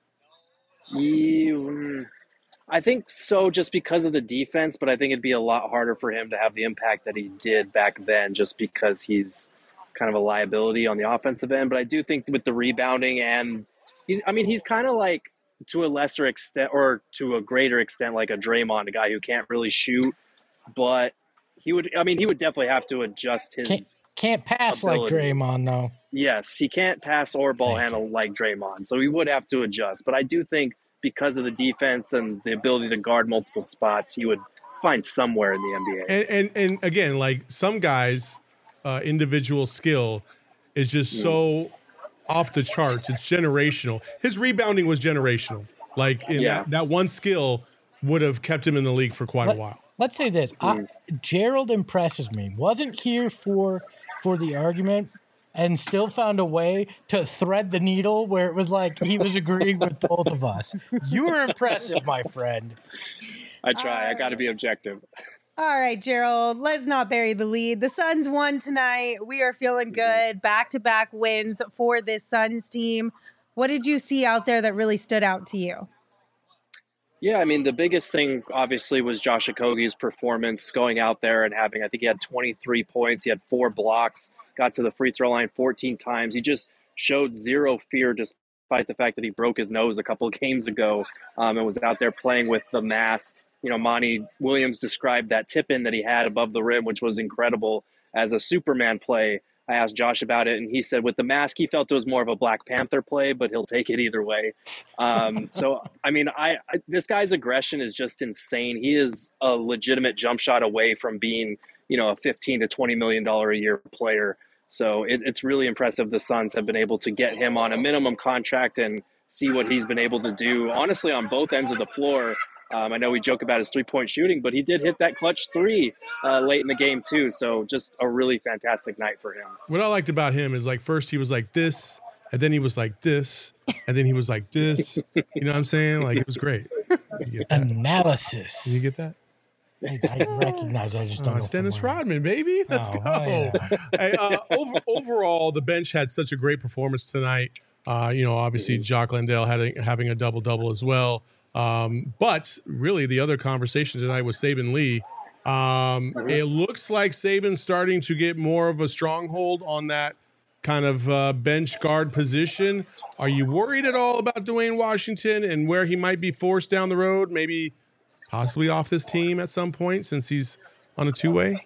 You, I think so, just because of the defense, but I think it'd be a lot harder for him to have the impact that he did back then just because he's kind of a liability on the offensive end. But I do think with the rebounding and he's, I mean, he's kind of like, to a lesser extent or to a greater extent, like a Draymond, a guy who can't really shoot, but he would, I mean, he would definitely have to adjust his. can't, can't pass abilities. like Draymond, though. Yes, he can't pass or ball Thank handle like Draymond, so he would have to adjust. But I do think because of the defense and the ability to guard multiple spots, he would find somewhere in the N B A. And and, and again, like some guys, uh, individual skill is just so off the charts. It's generational. His rebounding was generational. Like in Yeah. that, that one skill would have kept him in the league for quite Let- a while. Let's say this. I, Gerald impresses me. Wasn't here for for the argument and still found a way to thread the needle where it was like he was agreeing with both of us. You were impressive, my friend. I try. I got to be objective. All right, Gerald, let's not bury the lead. The Suns won tonight. We are feeling good. Back-to-back wins for this Suns team. What did you see out there that really stood out to you? Yeah, I mean, the biggest thing obviously was Josh Okogie's performance going out there and having, I think he had twenty-three points. He had four blocks, got to the free throw line fourteen times. He just showed zero fear despite the fact that he broke his nose a couple of games ago um, and was out there playing with the mask. You know, Monty Williams described that tip-in that he had above the rim, which was incredible, as a Superman play. I asked Josh about it, and he said with the mask, he felt it was more of a Black Panther play, but he'll take it either way. Um, so, I mean, I, I this guy's aggression is just insane. He is a legitimate jump shot away from being, you know, a fifteen to twenty million dollars a year player. So it, it's really impressive the Suns have been able to get him on a minimum contract and see what he's been able to do, honestly, on both ends of the floor. Um, I know we joke about his three-point shooting, but he did hit that clutch three uh, late in the game too. So just a really fantastic night for him. What I liked about him is like first he was like this, and then he was like this, and then he was like this. You know what I'm saying? Like it was great. You get that? Analysis. You get that? I, I recognize. I just Oh, don't know. it's from Dennis where. Rodman, baby. Let's Oh, go. oh, yeah. Hey, uh, over, overall, the bench had such a great performance tonight. Uh, you know, obviously, Jock Landale had a, having a double double as well. Um, but really, the other conversation tonight was Saban Lee. Um, Mhm. It looks like Saban's starting to get more of a stronghold on that kind of uh, bench guard position. Are you worried at all about Dwayne Washington and where he might be forced down the road, maybe possibly off this team at some point since he's on a two-way?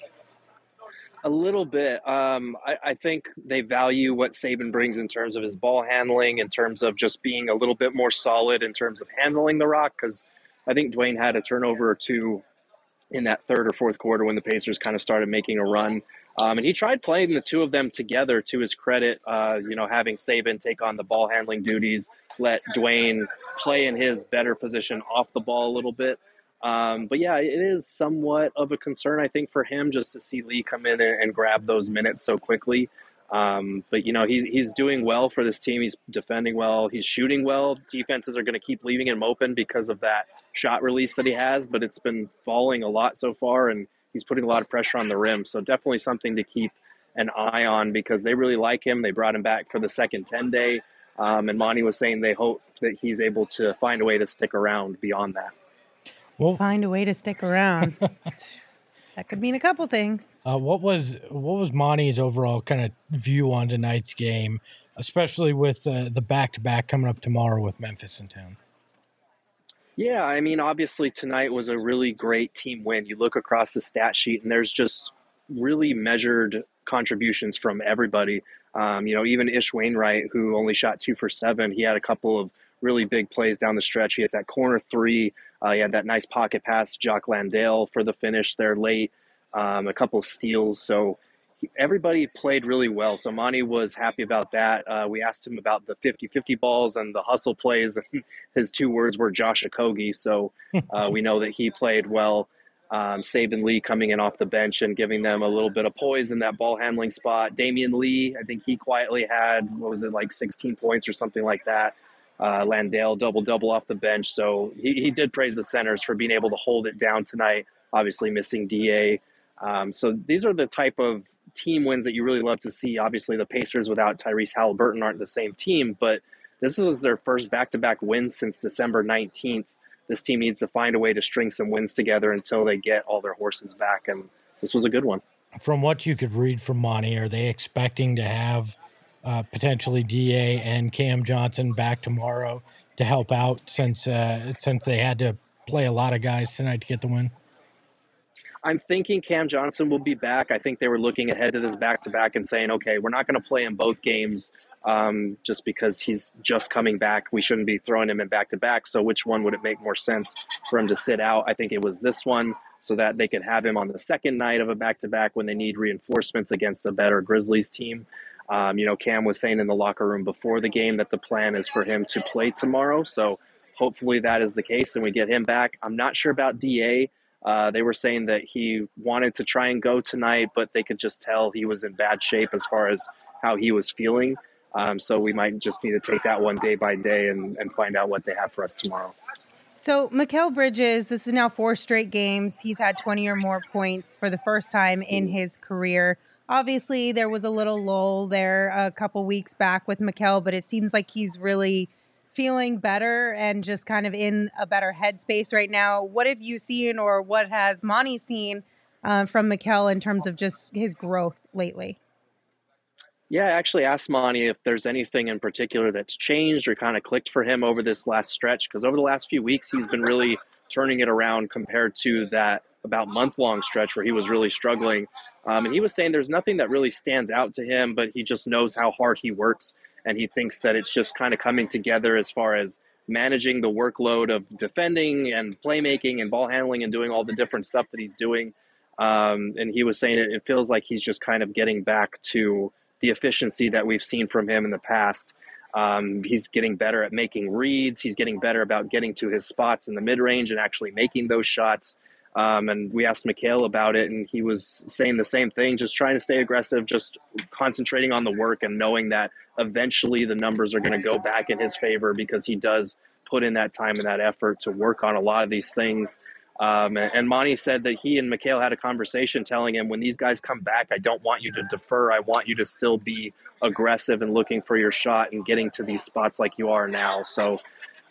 A little bit. Um, I, I think they value what Saban brings in terms of his ball handling, in terms of just being a little bit more solid in terms of handling the rock. Because I think Dwayne had a turnover or two in that third or fourth quarter when the Pacers kind of started making a run. Um, and he tried playing the two of them together, to his credit, uh, you know, having Saban take on the ball handling duties, let Dwayne play in his better position off the ball a little bit. Um, but yeah, it is somewhat of a concern, I think, for him just to see Lee come in and, and grab those minutes so quickly. Um, but, you know, he's, he's doing well for this team. He's defending well. He's shooting well. Defenses are going to keep leaving him open because of that shot release that he has, but it's been falling a lot so far, and he's putting a lot of pressure on the rim. So definitely something to keep an eye on because they really like him. They brought him back for the second ten day. Um, and Monty was saying they hope that he's able to find a way to stick around beyond that. Well, Find a way to stick around. That could mean a couple things. uh, what was what was Monty's overall kind of view on tonight's game, especially with uh, the back to back coming up tomorrow with Memphis in town? Yeah, I mean, obviously tonight was a really great team win. You look across the stat sheet, and there's just really measured contributions from everybody. Um, you know, even Ish Wainwright, who only shot two for seven, he had a couple of really big plays down the stretch. He had that corner three. Uh, he had that nice pocket pass to Jock Landale for the finish there late, um, a couple of steals. So he, everybody played really well. So Monty was happy about that. Uh, we asked him about the fifty-fifty balls and the hustle plays. And his two words were Josh Okogie. So uh, we know that he played well. Um, Saban Lee coming in off the bench and giving them a little bit of poise in that ball handling spot. Damian Lee, I think he quietly had, what was it, like sixteen points or something like that. Uh, Landale double-double off the bench. So he, he did praise the centers for being able to hold it down tonight, obviously missing D A. Um, so these are the type of team wins that you really love to see. Obviously, the Pacers without Tyrese Halliburton aren't the same team, but this is their first back-to-back wins since December nineteenth. This team needs to find a way to string some wins together until they get all their horses back, and this was a good one. From what you could read from Monty, are they expecting to have uh, potentially D A and Cam Johnson back tomorrow to help out since uh, since they had to play a lot of guys tonight to get the win? I'm thinking Cam Johnson will be back. I think they were looking ahead to this back-to-back and saying, okay, we're not going to play in both games um, just because he's just coming back. We shouldn't be throwing him in back-to-back. So which one would it make more sense for him to sit out? I think it was this one so that they could have him on the second night of a back-to-back when they need reinforcements against a better Grizzlies team. Um, you know, Cam was saying in the locker room before the game that the plan is for him to play tomorrow. So hopefully that is the case and we get him back. I'm not sure about D A. Uh, they were saying that he wanted to try and go tonight, but they could just tell he was in bad shape as far as how he was feeling. Um, so we might just need to take that one day by day and, and find out what they have for us tomorrow. So Mikal Bridges, this is now four straight games. He's had twenty or more points for the first time in his career. Obviously, there was a little lull there a couple weeks back with Mikal, but it seems like he's really feeling better and just kind of in a better headspace right now. What have you seen or what has Monty seen uh, from Mikal in terms of just his growth lately? Yeah, I actually asked Monty if there's anything in particular that's changed or kind of clicked for him over this last stretch, because over the last few weeks, he's been really turning it around compared to that about month-long stretch where he was really struggling. Um, and he was saying there's nothing that really stands out to him, but he just knows how hard he works. And he thinks that it's just kind of coming together as far as managing the workload of defending and playmaking and ball handling and doing all the different stuff that he's doing. Um, and he was saying it, it feels like he's just kind of getting back to the efficiency that we've seen from him in the past. Um, he's getting better at making reads. He's getting better about getting to his spots in the mid-range and actually making those shots. Um, and we asked Mikal about it, and he was saying the same thing, just trying to stay aggressive, just concentrating on the work and knowing that eventually the numbers are going to go back in his favor because he does put in that time and that effort to work on a lot of these things. Um, and, and Monty said that he and Mikal had a conversation telling him, when these guys come back, I don't want you to defer. I want you to still be aggressive and looking for your shot and getting to these spots like you are now. So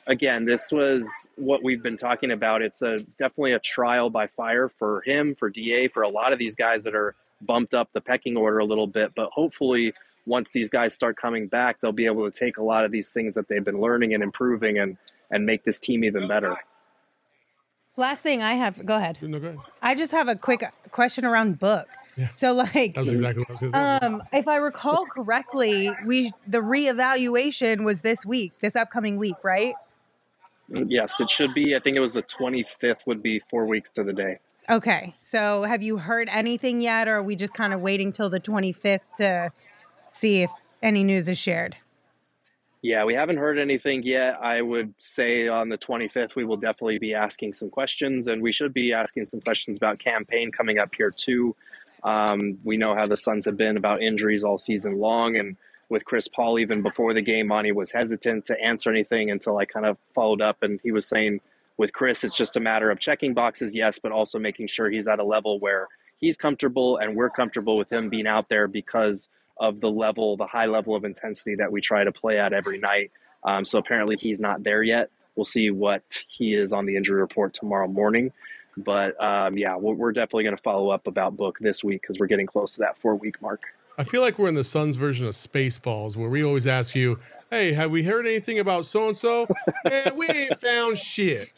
again, this was what we've been talking about. It's a definitely a trial by fire for him, for D A, for a lot of these guys that are bumped up the pecking order a little bit. But hopefully, once these guys start coming back, they'll be able to take a lot of these things that they've been learning and improving and, and make this team even better. Last thing I have, go ahead. No, go ahead. I just have a quick question around Book. Yeah. So like, That was exactly what I was going to say. um, if I recall correctly, we the reevaluation was this week, this upcoming week, right? Yes, it should be. I think it was the twenty-fifth would be four weeks to the day. Okay. So have you heard anything yet, or are we just kind of waiting till the twenty-fifth to see if any news is shared? Yeah, we haven't heard anything yet. I would say on the twenty-fifth, we will definitely be asking some questions, and we should be asking some questions about campaign coming up here too. Um, we know how the Suns have been about injuries all season long, and with Chris Paul, even before the game, Monty was hesitant to answer anything until I kind of followed up, and he was saying with Chris, it's just a matter of checking boxes, yes, but also making sure he's at a level where he's comfortable and we're comfortable with him being out there because of the level, the high level of intensity that we try to play at every night. Um, so apparently he's not there yet. We'll see what he is on the injury report tomorrow morning. But um, yeah, we're, we're definitely going to follow up about Book this week because we're getting close to that four week mark. I feel like we're in the Suns version of Spaceballs, where we always ask you, hey, have we heard anything about so-and-so? Man, we ain't found shit.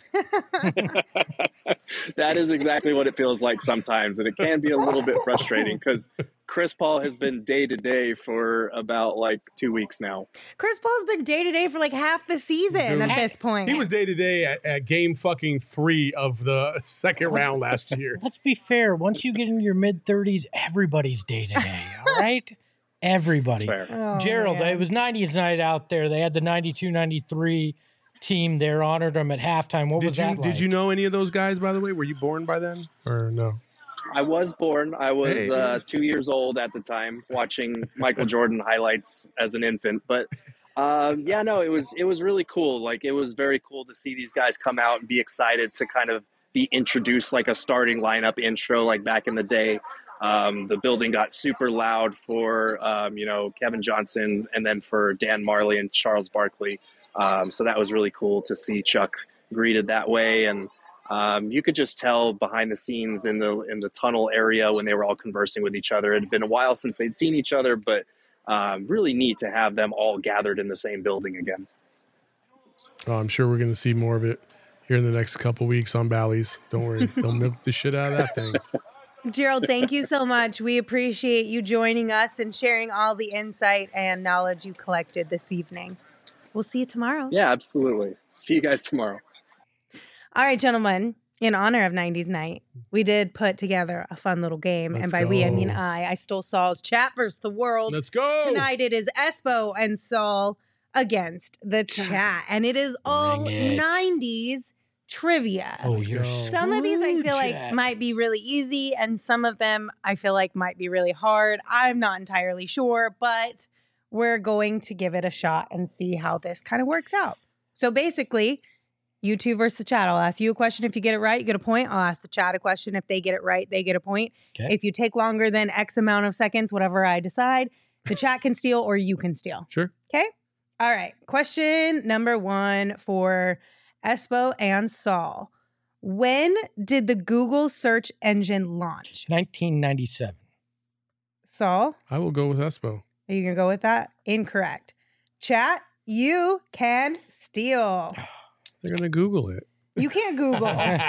That is exactly what it feels like sometimes, and it can be a little bit frustrating because Chris Paul has been day to day for about like two weeks now. Chris Paul's been day to day for like half the season Dude, at this point. He was day to day at, at game fucking three of the second round last year. Let's be fair. Once you get into your mid thirties, everybody's day to day. All right, everybody. That's fair. Oh, Gerald, man. it was nineties night out there. They had the ninety-two ninety-three team there, honored them at halftime. What Did was you that like? did you know any of those guys, by the way? Were you born by then or no? I was born. I was Hey. uh, two years old at the time, watching Michael Jordan highlights as an infant. But um, yeah, no, it was it was really cool. Like it was very cool to see these guys come out and be excited to kind of be introduced like a starting lineup intro, like back in the day. Um, the building got super loud for um, you know Kevin Johnson, and then for Dan Marley and Charles Barkley. Um, so that was really cool to see Chuck greeted that way, and um, you could just tell behind the scenes in the in the tunnel area when they were all conversing with each other. It had been a while since they'd seen each other, but um, really neat to have them all gathered in the same building again. Oh, I'm sure we're going to see more of it here in the next couple weeks on Bally's. Don't worry. They'll milk the shit out of that thing. Gerald, thank you so much. We appreciate you joining us and sharing all the insight and knowledge you collected this evening. We'll see you tomorrow. Yeah, absolutely. See you guys tomorrow. All right, gentlemen. In honor of nineties night, we did put together a fun little game. Let's and by we, I mean go. I. I stole Saul's chat versus the world. Let's go. Tonight it is Espo and Saul against the chat. And it is all Bring it. nineties trivia. Oh, Let's you're go. Some of these I feel like Chat. might be really easy, and some of them I feel like might be really hard. I'm not entirely sure, but we're going to give it a shot and see how this kind of works out. So basically, you two versus the chat. I'll ask you a question. If you get it right, you get a point. I'll ask the chat a question. If they get it right, they get a point. Okay. If you take longer than X amount of seconds, whatever I decide, the chat can steal or you can steal. Sure. Okay? All right. Question number one for Espo and Saul. When did the Google search engine launch? nineteen ninety-seven. Saul, I will go with Espo. are you going to go with that? Incorrect. Chat, you can steal. They're going to Google it. You can't Google.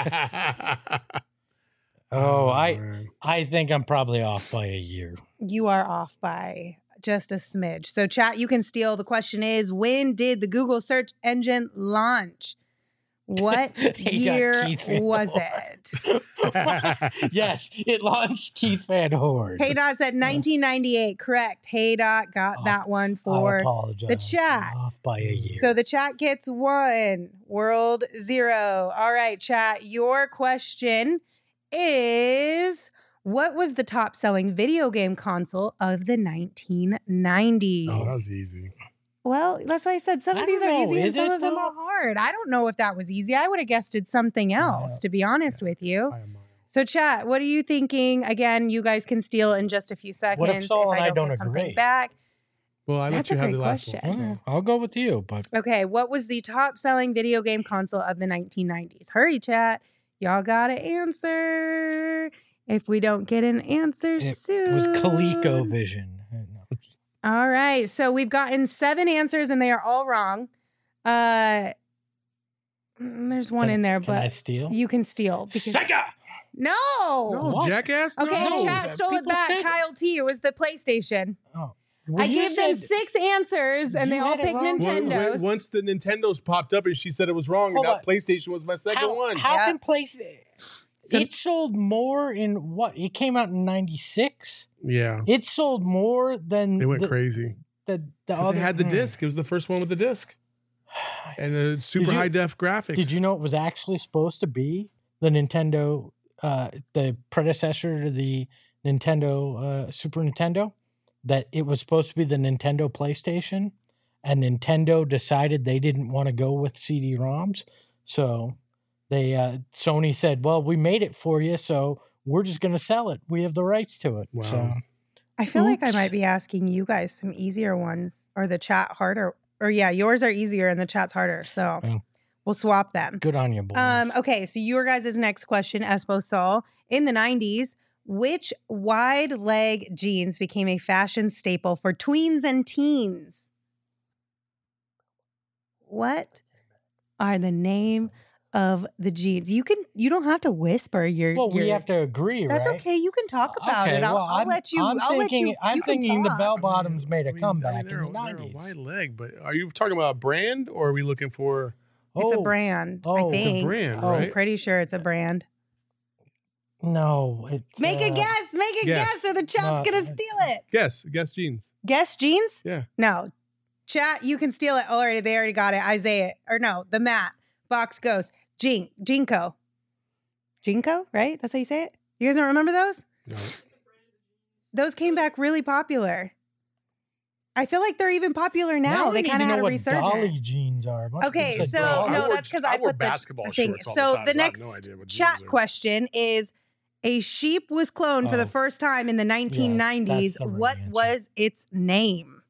Oh, I man. I think I'm probably off by a year. You are off by just a smidge. So, chat, you can steal. The question is, when did the Google search engine launch? What Hey, Doc, year Keith Van was Horn. it? Yes, it launched Keith Van Horn. Hey Dot said nineteen ninety-eight. Correct. Hey Dot got Oh, that one I for apologize. the chat. I'm off by a year. So the chat gets one. World zero. All right, chat. Your question is, what was the top selling video game console of the nineteen nineties? Oh, that was easy. Well, that's why I said some I of these don't are know. easy and Is some it, of them though? are hard. I don't know if that was easy. I would have guessed it's something else, Yeah. to be honest with you. I am, uh, So, chat, what are you thinking? Again, you guys can steal in just a few seconds. What if Saul and I I don't, don't get something agree? back. Well, I That's let you a have great the last question. one. Mm, I'll go with you, but Okay, what was the top-selling video game console of the nineteen nineties? Hurry, chat. Y'all gotta answer. If we don't get an answer it soon. was ColecoVision. Uh, no. All right, so we've gotten seven answers and they are all wrong. Uh, mm, there's one Can- in there, Can I but steal? you can steal. Because, Sega! no. No, What? jackass. Okay, no. chat stole it people back. said- Kyle T. It was the PlayStation. Oh. Well, I you gave them said- six answers and You they all had it picked wrong. Well, Nintendos. wait, once the Nintendo's popped up and she said it was wrong, Hold and on. now PlayStation was my second How, one. how Yeah. can PlayStation? So- It sold more in what? It came out in ninety-six. Yeah, It sold more than it went the, crazy The, the because other they had the hmm. disc. It was the first one with the disc and the super you- high def graphics. Did you know it was actually supposed to be the Nintendo, uh, the predecessor to the Nintendo uh, Super Nintendo? That it was supposed to be the Nintendo PlayStation, and Nintendo decided they didn't want to go with C D ROMs, so they uh, Sony said, "Well, we made it for you, so we're just going to sell it. We have the rights to it." Wow. So I feel like I Oops. might be asking you guys some easier ones or the chat harder. Or yeah, yours are easier and the chat's harder. So Yeah. we'll swap them. good on you, boys. Um, okay, so your guys' next question, Espo Sol. In the nineties, which wide leg jeans became a fashion staple for tweens and teens? What are the name of the jeans? You can you don't have to whisper your well, we your- have to agree, That's right? okay. You can talk about Okay, it. I'll, well, I'll I'm- let you. I'm I'll let thinking, you. I'm you can thinking the talk. bell I mean, bottoms made a I mean, comeback I mean, they're, in the a- they're a nineties. wide leg, but are you talking about a brand or are we looking for? It's a Oh, brand. I oh, it's a think. It's a brand, Oh, right? I'm pretty sure it's a brand. No, it's Make a uh, guess. Make a guess. guess, or the chat's No, gonna it's- steal it. Guess, guess jeans. Guess jeans? Yeah. No. Chat, you can steal it. Oh, already, they already got it. Isaiah, or no, the Matt Box Ghost, Jin, Jinko, Jinko, right? That's how you say it. You guys don't remember those? No. Those came back really popular. I feel like they're even popular now. I they need kind to of know had a what resurgence. Dolly jeans are. A bunch of Okay, people said so Dolly. I no, wore- that's because I I, wore put basketball the thing. shorts all So the time, the so I have next no idea what jeans chat are. question is: a sheep was cloned for the Oh. first time in the nineteen nineties. that's the right What answer. was its name?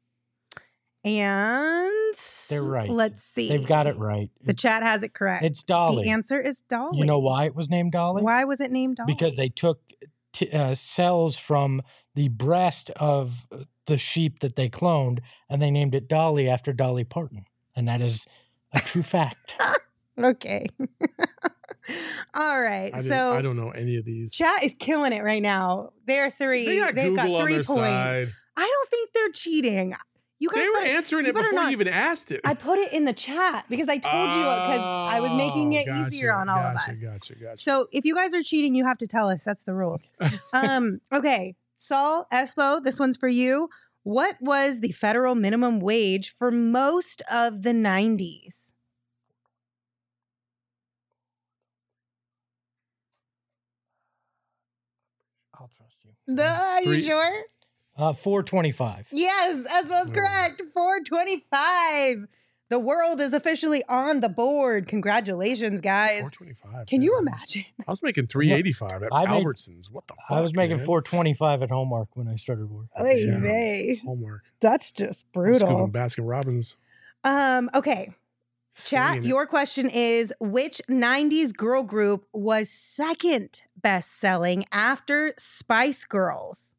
And They're right. Let's see. They've got it right. The chat has it correct. It's Dolly. The answer is Dolly. You know why it was named Dolly? Why was it named Dolly? Because they took t- uh, cells from the breast of the sheep that they cloned, and they named it Dolly after Dolly Parton, and that is a true fact. Okay. All right. I, didn't- so I don't know any of these. chat is killing it right now. They're three. They got They've Google got on three their points. side. I don't think they're cheating. You guys They were better- answering you it better before not- you even asked it. I put it in the chat because I told you because I was making Oh, it gotcha, easier on all of gotcha, us. Gotcha, gotcha. So if you guys are cheating, you have to tell us. That's the rules. um, okay. Saul, Espo, this one's for you. What was the federal minimum wage for most of the nineties? I'll trust you. The, are you Three- sure? Uh, four twenty-five. Yes, Espo's Oh. correct. four twenty-five. The world is officially on the board. Congratulations, guys. four twenty-five. Can you man. imagine? I was making three eighty-five at I made- Albertsons. What the fuck? I was making man? four twenty-five at Hallmark when I started work. Oy Yeah. vey. Hallmark. That's just I was brutal. cooking Baskin Robbins. Um, okay. Chat, Slinging it. your question is which nineties girl group was second best selling after Spice Girls?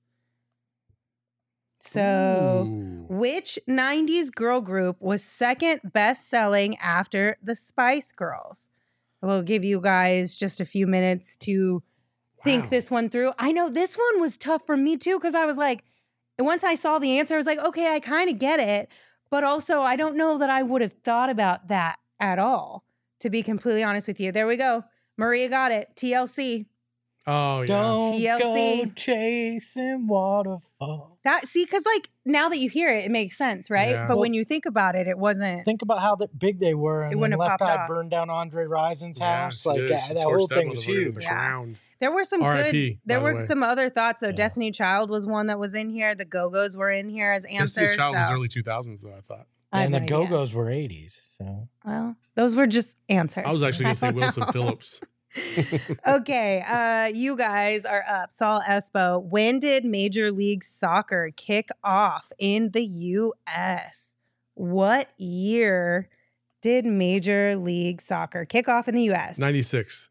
So, Ooh. which nineties girl group was second best selling after the Spice Girls? We'll give you guys just a few minutes to think Wow. this one through. I know this one was tough for me too because I was like, once I saw the answer, I was like, okay, I kind of get it. But also, I don't know that I would have thought about that at all, to be completely honest with you. There we go. Maria got it. T L C. Oh yeah. Don't T L C. go chasing waterfall. That see, because like now that you hear it, it makes sense, right? Yeah. But Well- when you think about it, it wasn't. Think about how that big they were, and It then wouldn't have Left popped Eye off. burned down Andre Risen's Yeah, house. she like did. that, She that torched whole thing motherfucker was to the huge. Yeah. ground. There were some R I good. P, There by the were way. some other thoughts though. Yeah. Destiny Child was one that was in here. The Go Go's were in here as answers. Destiny's Child was so early two thousands though. I thought. I have And the no idea. Go Go's were eighties. So Well, those were just answers. I was actually gonna say don't Wilson know. Phillips. Okay, uh, you guys are up. Saul Espo, when did Major League Soccer kick off in the U S? What year did Major League Soccer kick off in the U S? ninety-six.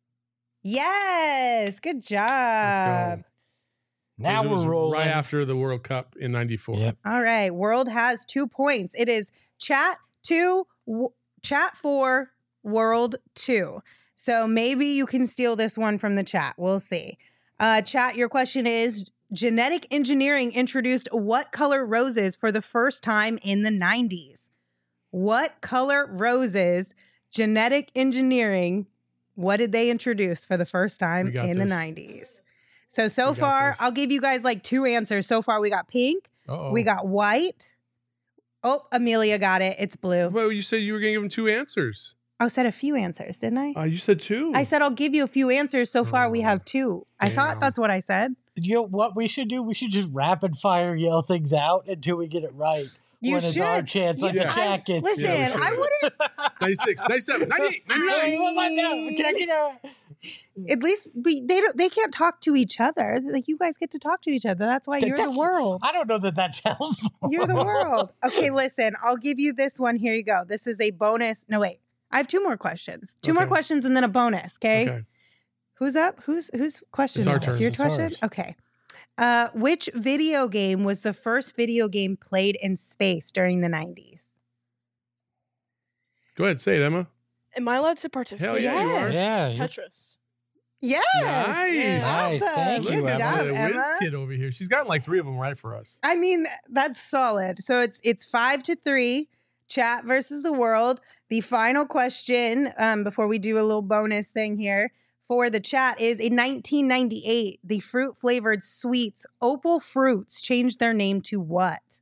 Yes, good Let's job. go. Now It was we're rolling. right after the World Cup in ninety-four. Yep. All right, World has two points. It is chat two, w- chat four, World two. So maybe you can steal this one from the chat. We'll see. Uh, chat, your question is, genetic engineering introduced what color roses for the first time in the nineties? What color roses, genetic engineering, what did they introduce for the first time We got in the this. nineties? So, so We got far, this. I'll give you guys like two answers. So far, we got pink, Uh-oh. we got white. Oh, Amelia got it. It's blue. Well, you said you were going to give him two answers. I said a few answers, didn't I? Uh, you said two. I said I'll give you a few answers. So far, we Oh, have two. I thought damn. that's what I said. You know what we should do? We should just rapid fire yell things out until we get it right. You when should. it's our chance, like You- the I- chat gets. Listen, Yeah, we should. I wouldn't. ninety-six, ninety-seven, ninety-eight, ninety-nine. Hey, what about that? Can I get a- At least we, they don't. They can't talk to each other. Like you guys get to talk to each other. That's why That- you're the that's- world. I don't know that that's helpful. You're the world. Okay, listen. I'll give you this one. Here you go. This is a bonus. No, wait. I have two more questions. Two more Okay. questions and then a bonus. Okay. Okay. Who's up? Who's whose question It's is our this? turn. Your It's question? ours. Okay. Uh, which video game was the first video game played in space during the nineties? Go ahead, say it, Emma. Am I allowed to participate? Hell yeah, you are. Yeah. you- Tetris. Yes. Nice. Nice. Awesome. Thank Good you, Look at job, the Emma. whiz kid over here. She's gotten like three of them right for us. I mean, that's solid. So it's it's five to three. Chat versus the world. The final question, um, before we do a little bonus thing here for the chat, is in nineteen ninety-eight, the fruit flavored sweets Opal Fruits changed their name to what?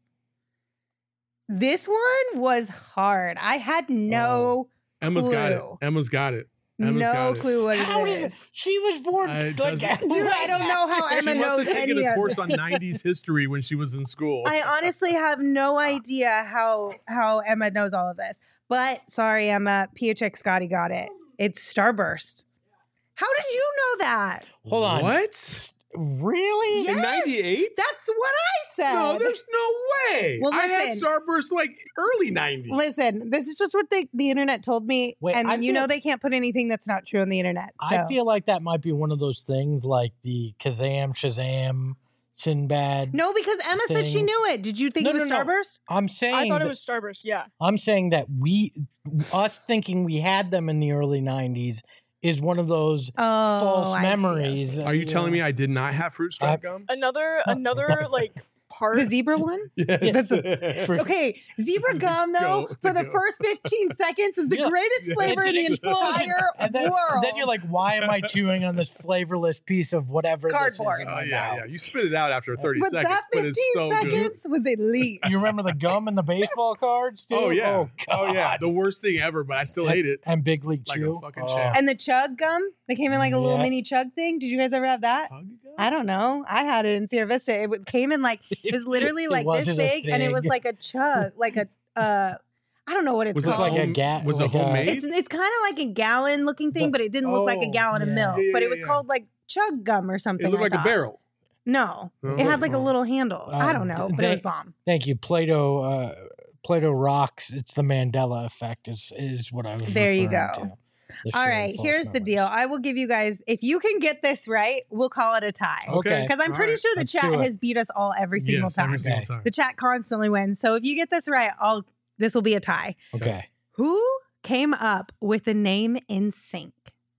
This one was hard. I had no Emma's got it. clue. Emma's got it. Emma's no got it. clue what it How is. does it? She was born I- like doesn't- Dude, I don't know how She Emma must knows have taken any a of course on this. nineties history when she was in school. I honestly have no idea how how Emma knows all of this. But sorry, Emma, P H X Scotty got it. It's Starburst. How did you know that? Hold on. What? Really? Yeah. In ninety-eight? That's what I said. No, there's no way. Well, I had listen. Starburst like early nineties. Listen, this is just what the, the internet told me. Wait, and I you feel- know they can't put anything that's not true on the internet. I so. feel like that might be one of those things like the Kazam, Shazam, Sinbad. No, because Emma said she thing. knew it. Did you think No, it was no, no. Starburst? I'm saying I thought that, it was Starburst. Yeah. I'm saying that we, us thinking we had them in the early nineties is one of those Oh, false I see, I memories. see. Are you telling me I did not have fruit stripe gum? Another another like part. The zebra one? Yes. For- Okay, zebra gum though Go, for the go. first fifteen seconds was the Yeah. greatest Yeah. flavor It's in an the explosion. entire and then, world. and then you're like, why am I chewing on this flavorless piece of whatever this is Cardboard. in Oh my yeah, mouth? yeah. You spit it out after thirty but seconds, that but fifteen it's so good. seconds was elite. You remember the gum and the baseball cards too? Oh yeah. Oh, Oh, yeah. God. The worst thing ever, but I still hate it. And Big League Like a Chew. fucking Oh. champ. And the chug gum, they came in like a little Yeah. mini chug thing. Did you guys ever have that? I don't know. I had it in Sierra Vista. It w- came in like it was literally It like this wasn't a big, and it was thing. like a chug, like a uh, I don't know what it's Was it called. like a home- ga- Was like it a- homemade? It's it's kind of like a gallon looking thing, The- but it didn't look like a Oh, gallon of yeah. milk. Yeah, yeah, but it yeah, was yeah. called like chug gum or something. it looked I like a thought. barrel. No, Oh, it had like a oh. little handle. I don't Um, know, d- but it was they- bomb. Thank you, Plato. Uh, Plato rocks. It's the Mandela effect. Is is what I was. There you referring go. to. The All shared right, false here's the deal. memories. I will give you guys, if you can get this right, we'll call it a tie. Okay. Because I'm All pretty right. sure the let's chat do it. has beat us all every single Yes, time. every single Okay. time. The chat constantly wins. So if you get this right, I'll this will be a tie. Okay. Who came up with the name In Sync?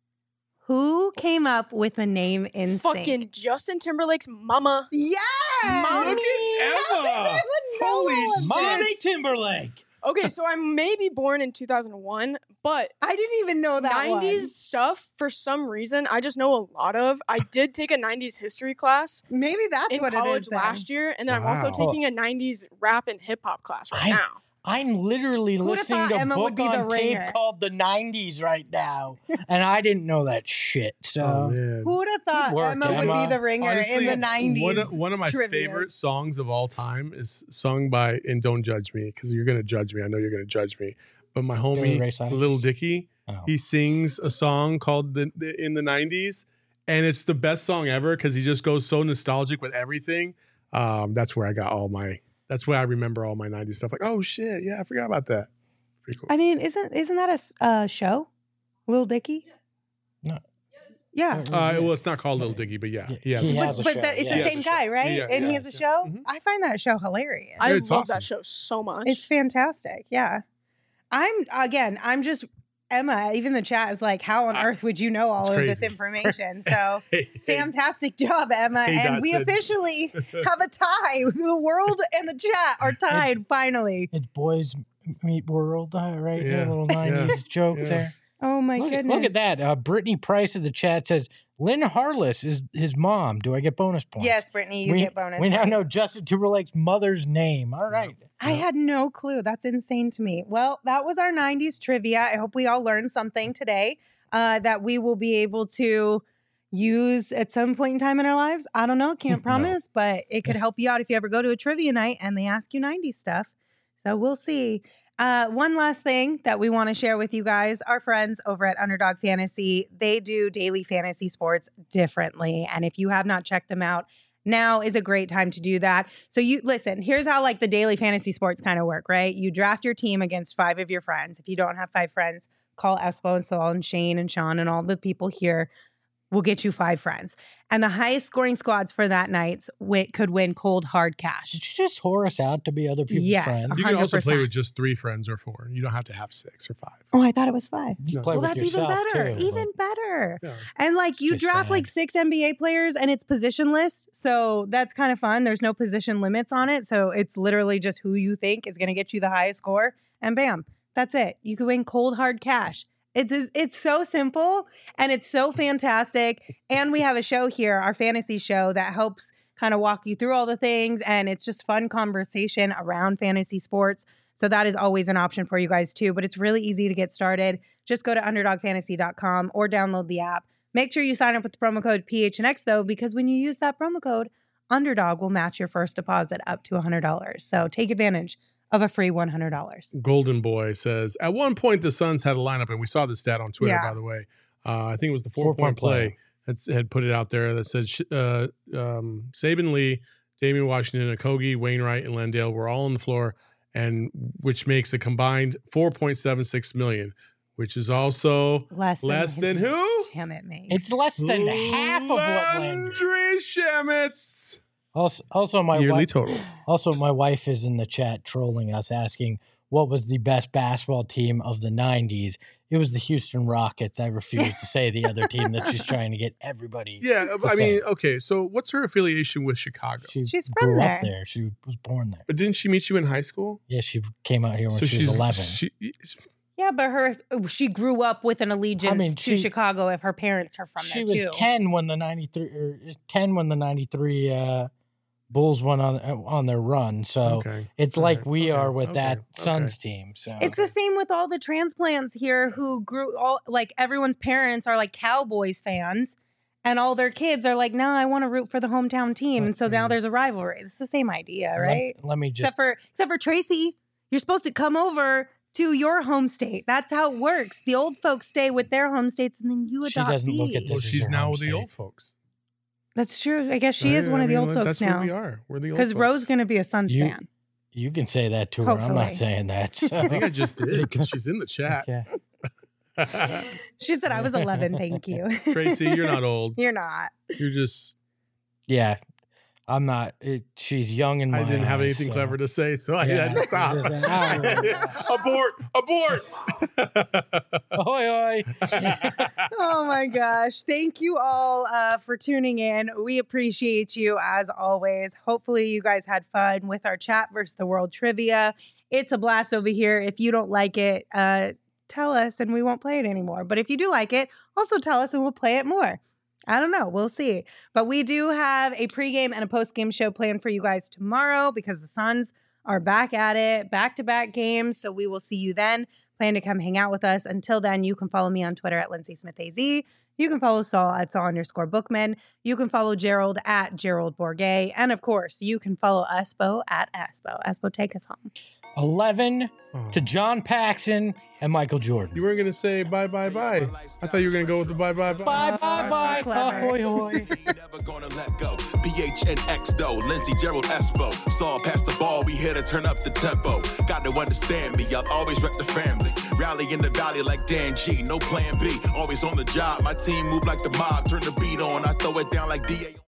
Who came up with the name In Fucking Sync? Justin Timberlake's mama. Yes! Mommy! Look at Emma. Holy shit. Mommy Timberlake. Okay, so I may be born in two thousand one, but I didn't even know that nineties stuff, for some reason, I just know a lot of. I did take a nineties history class one. Maybe that's in what it college is then. last year, and then I'm also Wow. taking a nineties rap and hip hop class right I- now. I'm literally Who'da listening thought to Emma book would be the on tape ringer? called the nineties right now, and I didn't know that shit. So Oh man. Who would have thought work, Emma, would Emma. be the ringer in Honestly, the nineties? One of, one of my trivia. favorite songs of all time is sung by, and don't judge me because you're going to judge me. I know you're going to judge me. But my Billy Ray homie, Cyrus? Little Dicky, Oh. he sings a song called the, the in the nineties, and it's the best song ever because he just goes so nostalgic with everything. Um, that's where I got all my. That's where I remember all my nineties stuff. Like, oh shit, yeah, I forgot about that. Pretty cool. I mean, isn't isn't that a s- uh, show? Lil Dicky? No. Yeah. Uh, well, it's not called Little Dicky, but yeah, he has. He one. has But, a but show, the, it's yeah. the He same has a guy, show. right? Yeah, and he yeah. has a show? Mhm. I find that show hilarious. I It's love awesome. that show so much. It's fantastic. Yeah. I'm, again, I'm just, Emma, even the chat is like, how on earth would you know all It's of this crazy. information? So Hey, hey, fantastic job, Emma. Hey, and we Dotson. officially have a tie. The world and the chat are tied finally. It's Boys Meet World, uh, right? Yeah, A little yeah, nineties joke yeah. there. Oh my Look, at- goodness. look at that. Uh, Brittany Price in the chat says, Lynn Harless is his mom. Do I get bonus points? Yes, Brittany, you we, get bonus. We now points. know Justin Timberlake's mother's name. All right. I had no clue. That's insane to me. Well, that was our nineties trivia. I hope we all learned something today uh, that we will be able to use at some point in time in our lives. I don't know. Can't No. promise, but it could help you out if you ever go to a trivia night and they ask you nineties stuff. So we'll see. Uh, one last thing that we want to share with you guys, our friends over at Underdog Fantasy, they do daily fantasy sports differently. And if you have not checked them out, now is a great time to do that. So you listen, here's how like the daily fantasy sports kind of work, right? You draft your team against five of your friends. If you don't have five friends, call Espo and Saul and Shane and Sean and all the people here. We'll get you five friends. And the highest scoring squads for that night wi- could win cold hard cash. Did you just whore us out to be other people's Yes, friends? You can also play one hundred percent. with just three friends or four. You don't have to have six or five. Oh, I thought it was five. You No. play Well, with that's even yourself, better. too, Even better. Yeah. And like you Just draft like sad. six N B A players and it's positionless. So that's kind of fun. There's no position limits on it. So it's literally just who you think is going to get you the highest score. And bam, that's it. You can win cold hard cash. It's it's so simple and it's so fantastic. And we have a show here, our fantasy show, that helps kind of walk you through all the things. And it's just fun conversation around fantasy sports. So that is always an option for you guys too. But it's really easy to get started. Just go to underdog fantasy dot com or download the app. Make sure you sign up with the promo code P H N X though, because when you use that promo code, Underdog will match your first deposit up to one hundred dollars. So take advantage of a free one hundred dollars. Golden Boy says, at one point the Suns had a lineup, and we saw this stat on Twitter, Yeah. by the way. Uh, I think it was the Four-point four-point play, play. had, had put it out there that said uh, um, Saban Lee, Damian Washington, Okogie, Wainwright, and Landale were all on the floor, and which makes a combined four point seven six million, which is also Less than, less than who? Damn it, mate. It's less than half of what Landry. Landry Shamit's Also, also my yearly wife, total. also my wife is in the chat trolling us, asking what was the best basketball team of the nineties. It was the Houston Rockets. I refuse to say the other team that she's trying to get everybody. Yeah, to I say. mean, okay, so what's her affiliation with Chicago? She She's from grew there. up there. She was born there. But didn't she meet you in high school? Yeah, she came out here when so she she's was eleven. She, yeah, but her she grew up with an allegiance I mean, to she- Chicago if her parents are from she there was too. ten when the ninety-three or ten when the ninety-three uh, Bulls went on on their run. So okay. it's All like right. we Okay. are with Okay. that Okay. Suns team. So It's the same with all the transplants here who grew all like everyone's parents are like Cowboys fans and all their kids are like, no, I want to root for the hometown team. And so now Mhm. there's a rivalry. It's the same idea, let- right? Let, me just Except for except for Tracy, you're supposed to come over to your home state. That's how it works. The old folks stay with their home states and then you She adopt doesn't look at these. Well, This is she's her now home with the state. old folks. That's true. I guess she is Right? one I of the mean, old folks that's now. What we are. We're the old Because folks. Ro's going to be a Suns You- fan. You can say that to her. I'm Hopefully. not saying that. So. I think I just did. 'Cause she's in the chat. Okay. She said I was eleven. Thank you. Tracy, you're not old. You're not. You're just. Yeah, I'm not. It, she's young and I didn't have anything clever to say, so I Yeah. had to stop. Yeah. abort! Abort! Oi, oi. Oh my gosh. Thank you all uh, for tuning in. We appreciate you as always. Hopefully, you guys had fun with our chat versus the world trivia. It's a blast over here. If you don't like it, uh, tell us and we won't play it anymore. But if you do like it, also tell us and we'll play it more. I don't know. We'll see. But we do have a pregame and a postgame show planned for you guys tomorrow because the Suns are back at it, back-to-back games. So we will see you then. Plan to come hang out with us. Until then, you can follow me on Twitter at Lindsay Smith A Z. You can follow Saul at Saul underscore Bookman. You can follow Gerald at Gerald Bourget. And of course, you can follow Espo at Espo. Espo, take us home. eleven Oh. to John Paxson and Michael Jordan. You weren't gonna say bye bye bye. I thought you were gonna go with the bye bye bye. Bye bye bye. Clever. Ahoy hoy. Never gonna let go. P H N X though, Lindsey Gerald Espo. Saw past the ball, we here to turn up the tempo. Got to understand me, I'll always rep the family. Rally in the valley like Dan G, no plan B. Always on the job, my team move like the mob. Turn the beat on, I throw it down like D A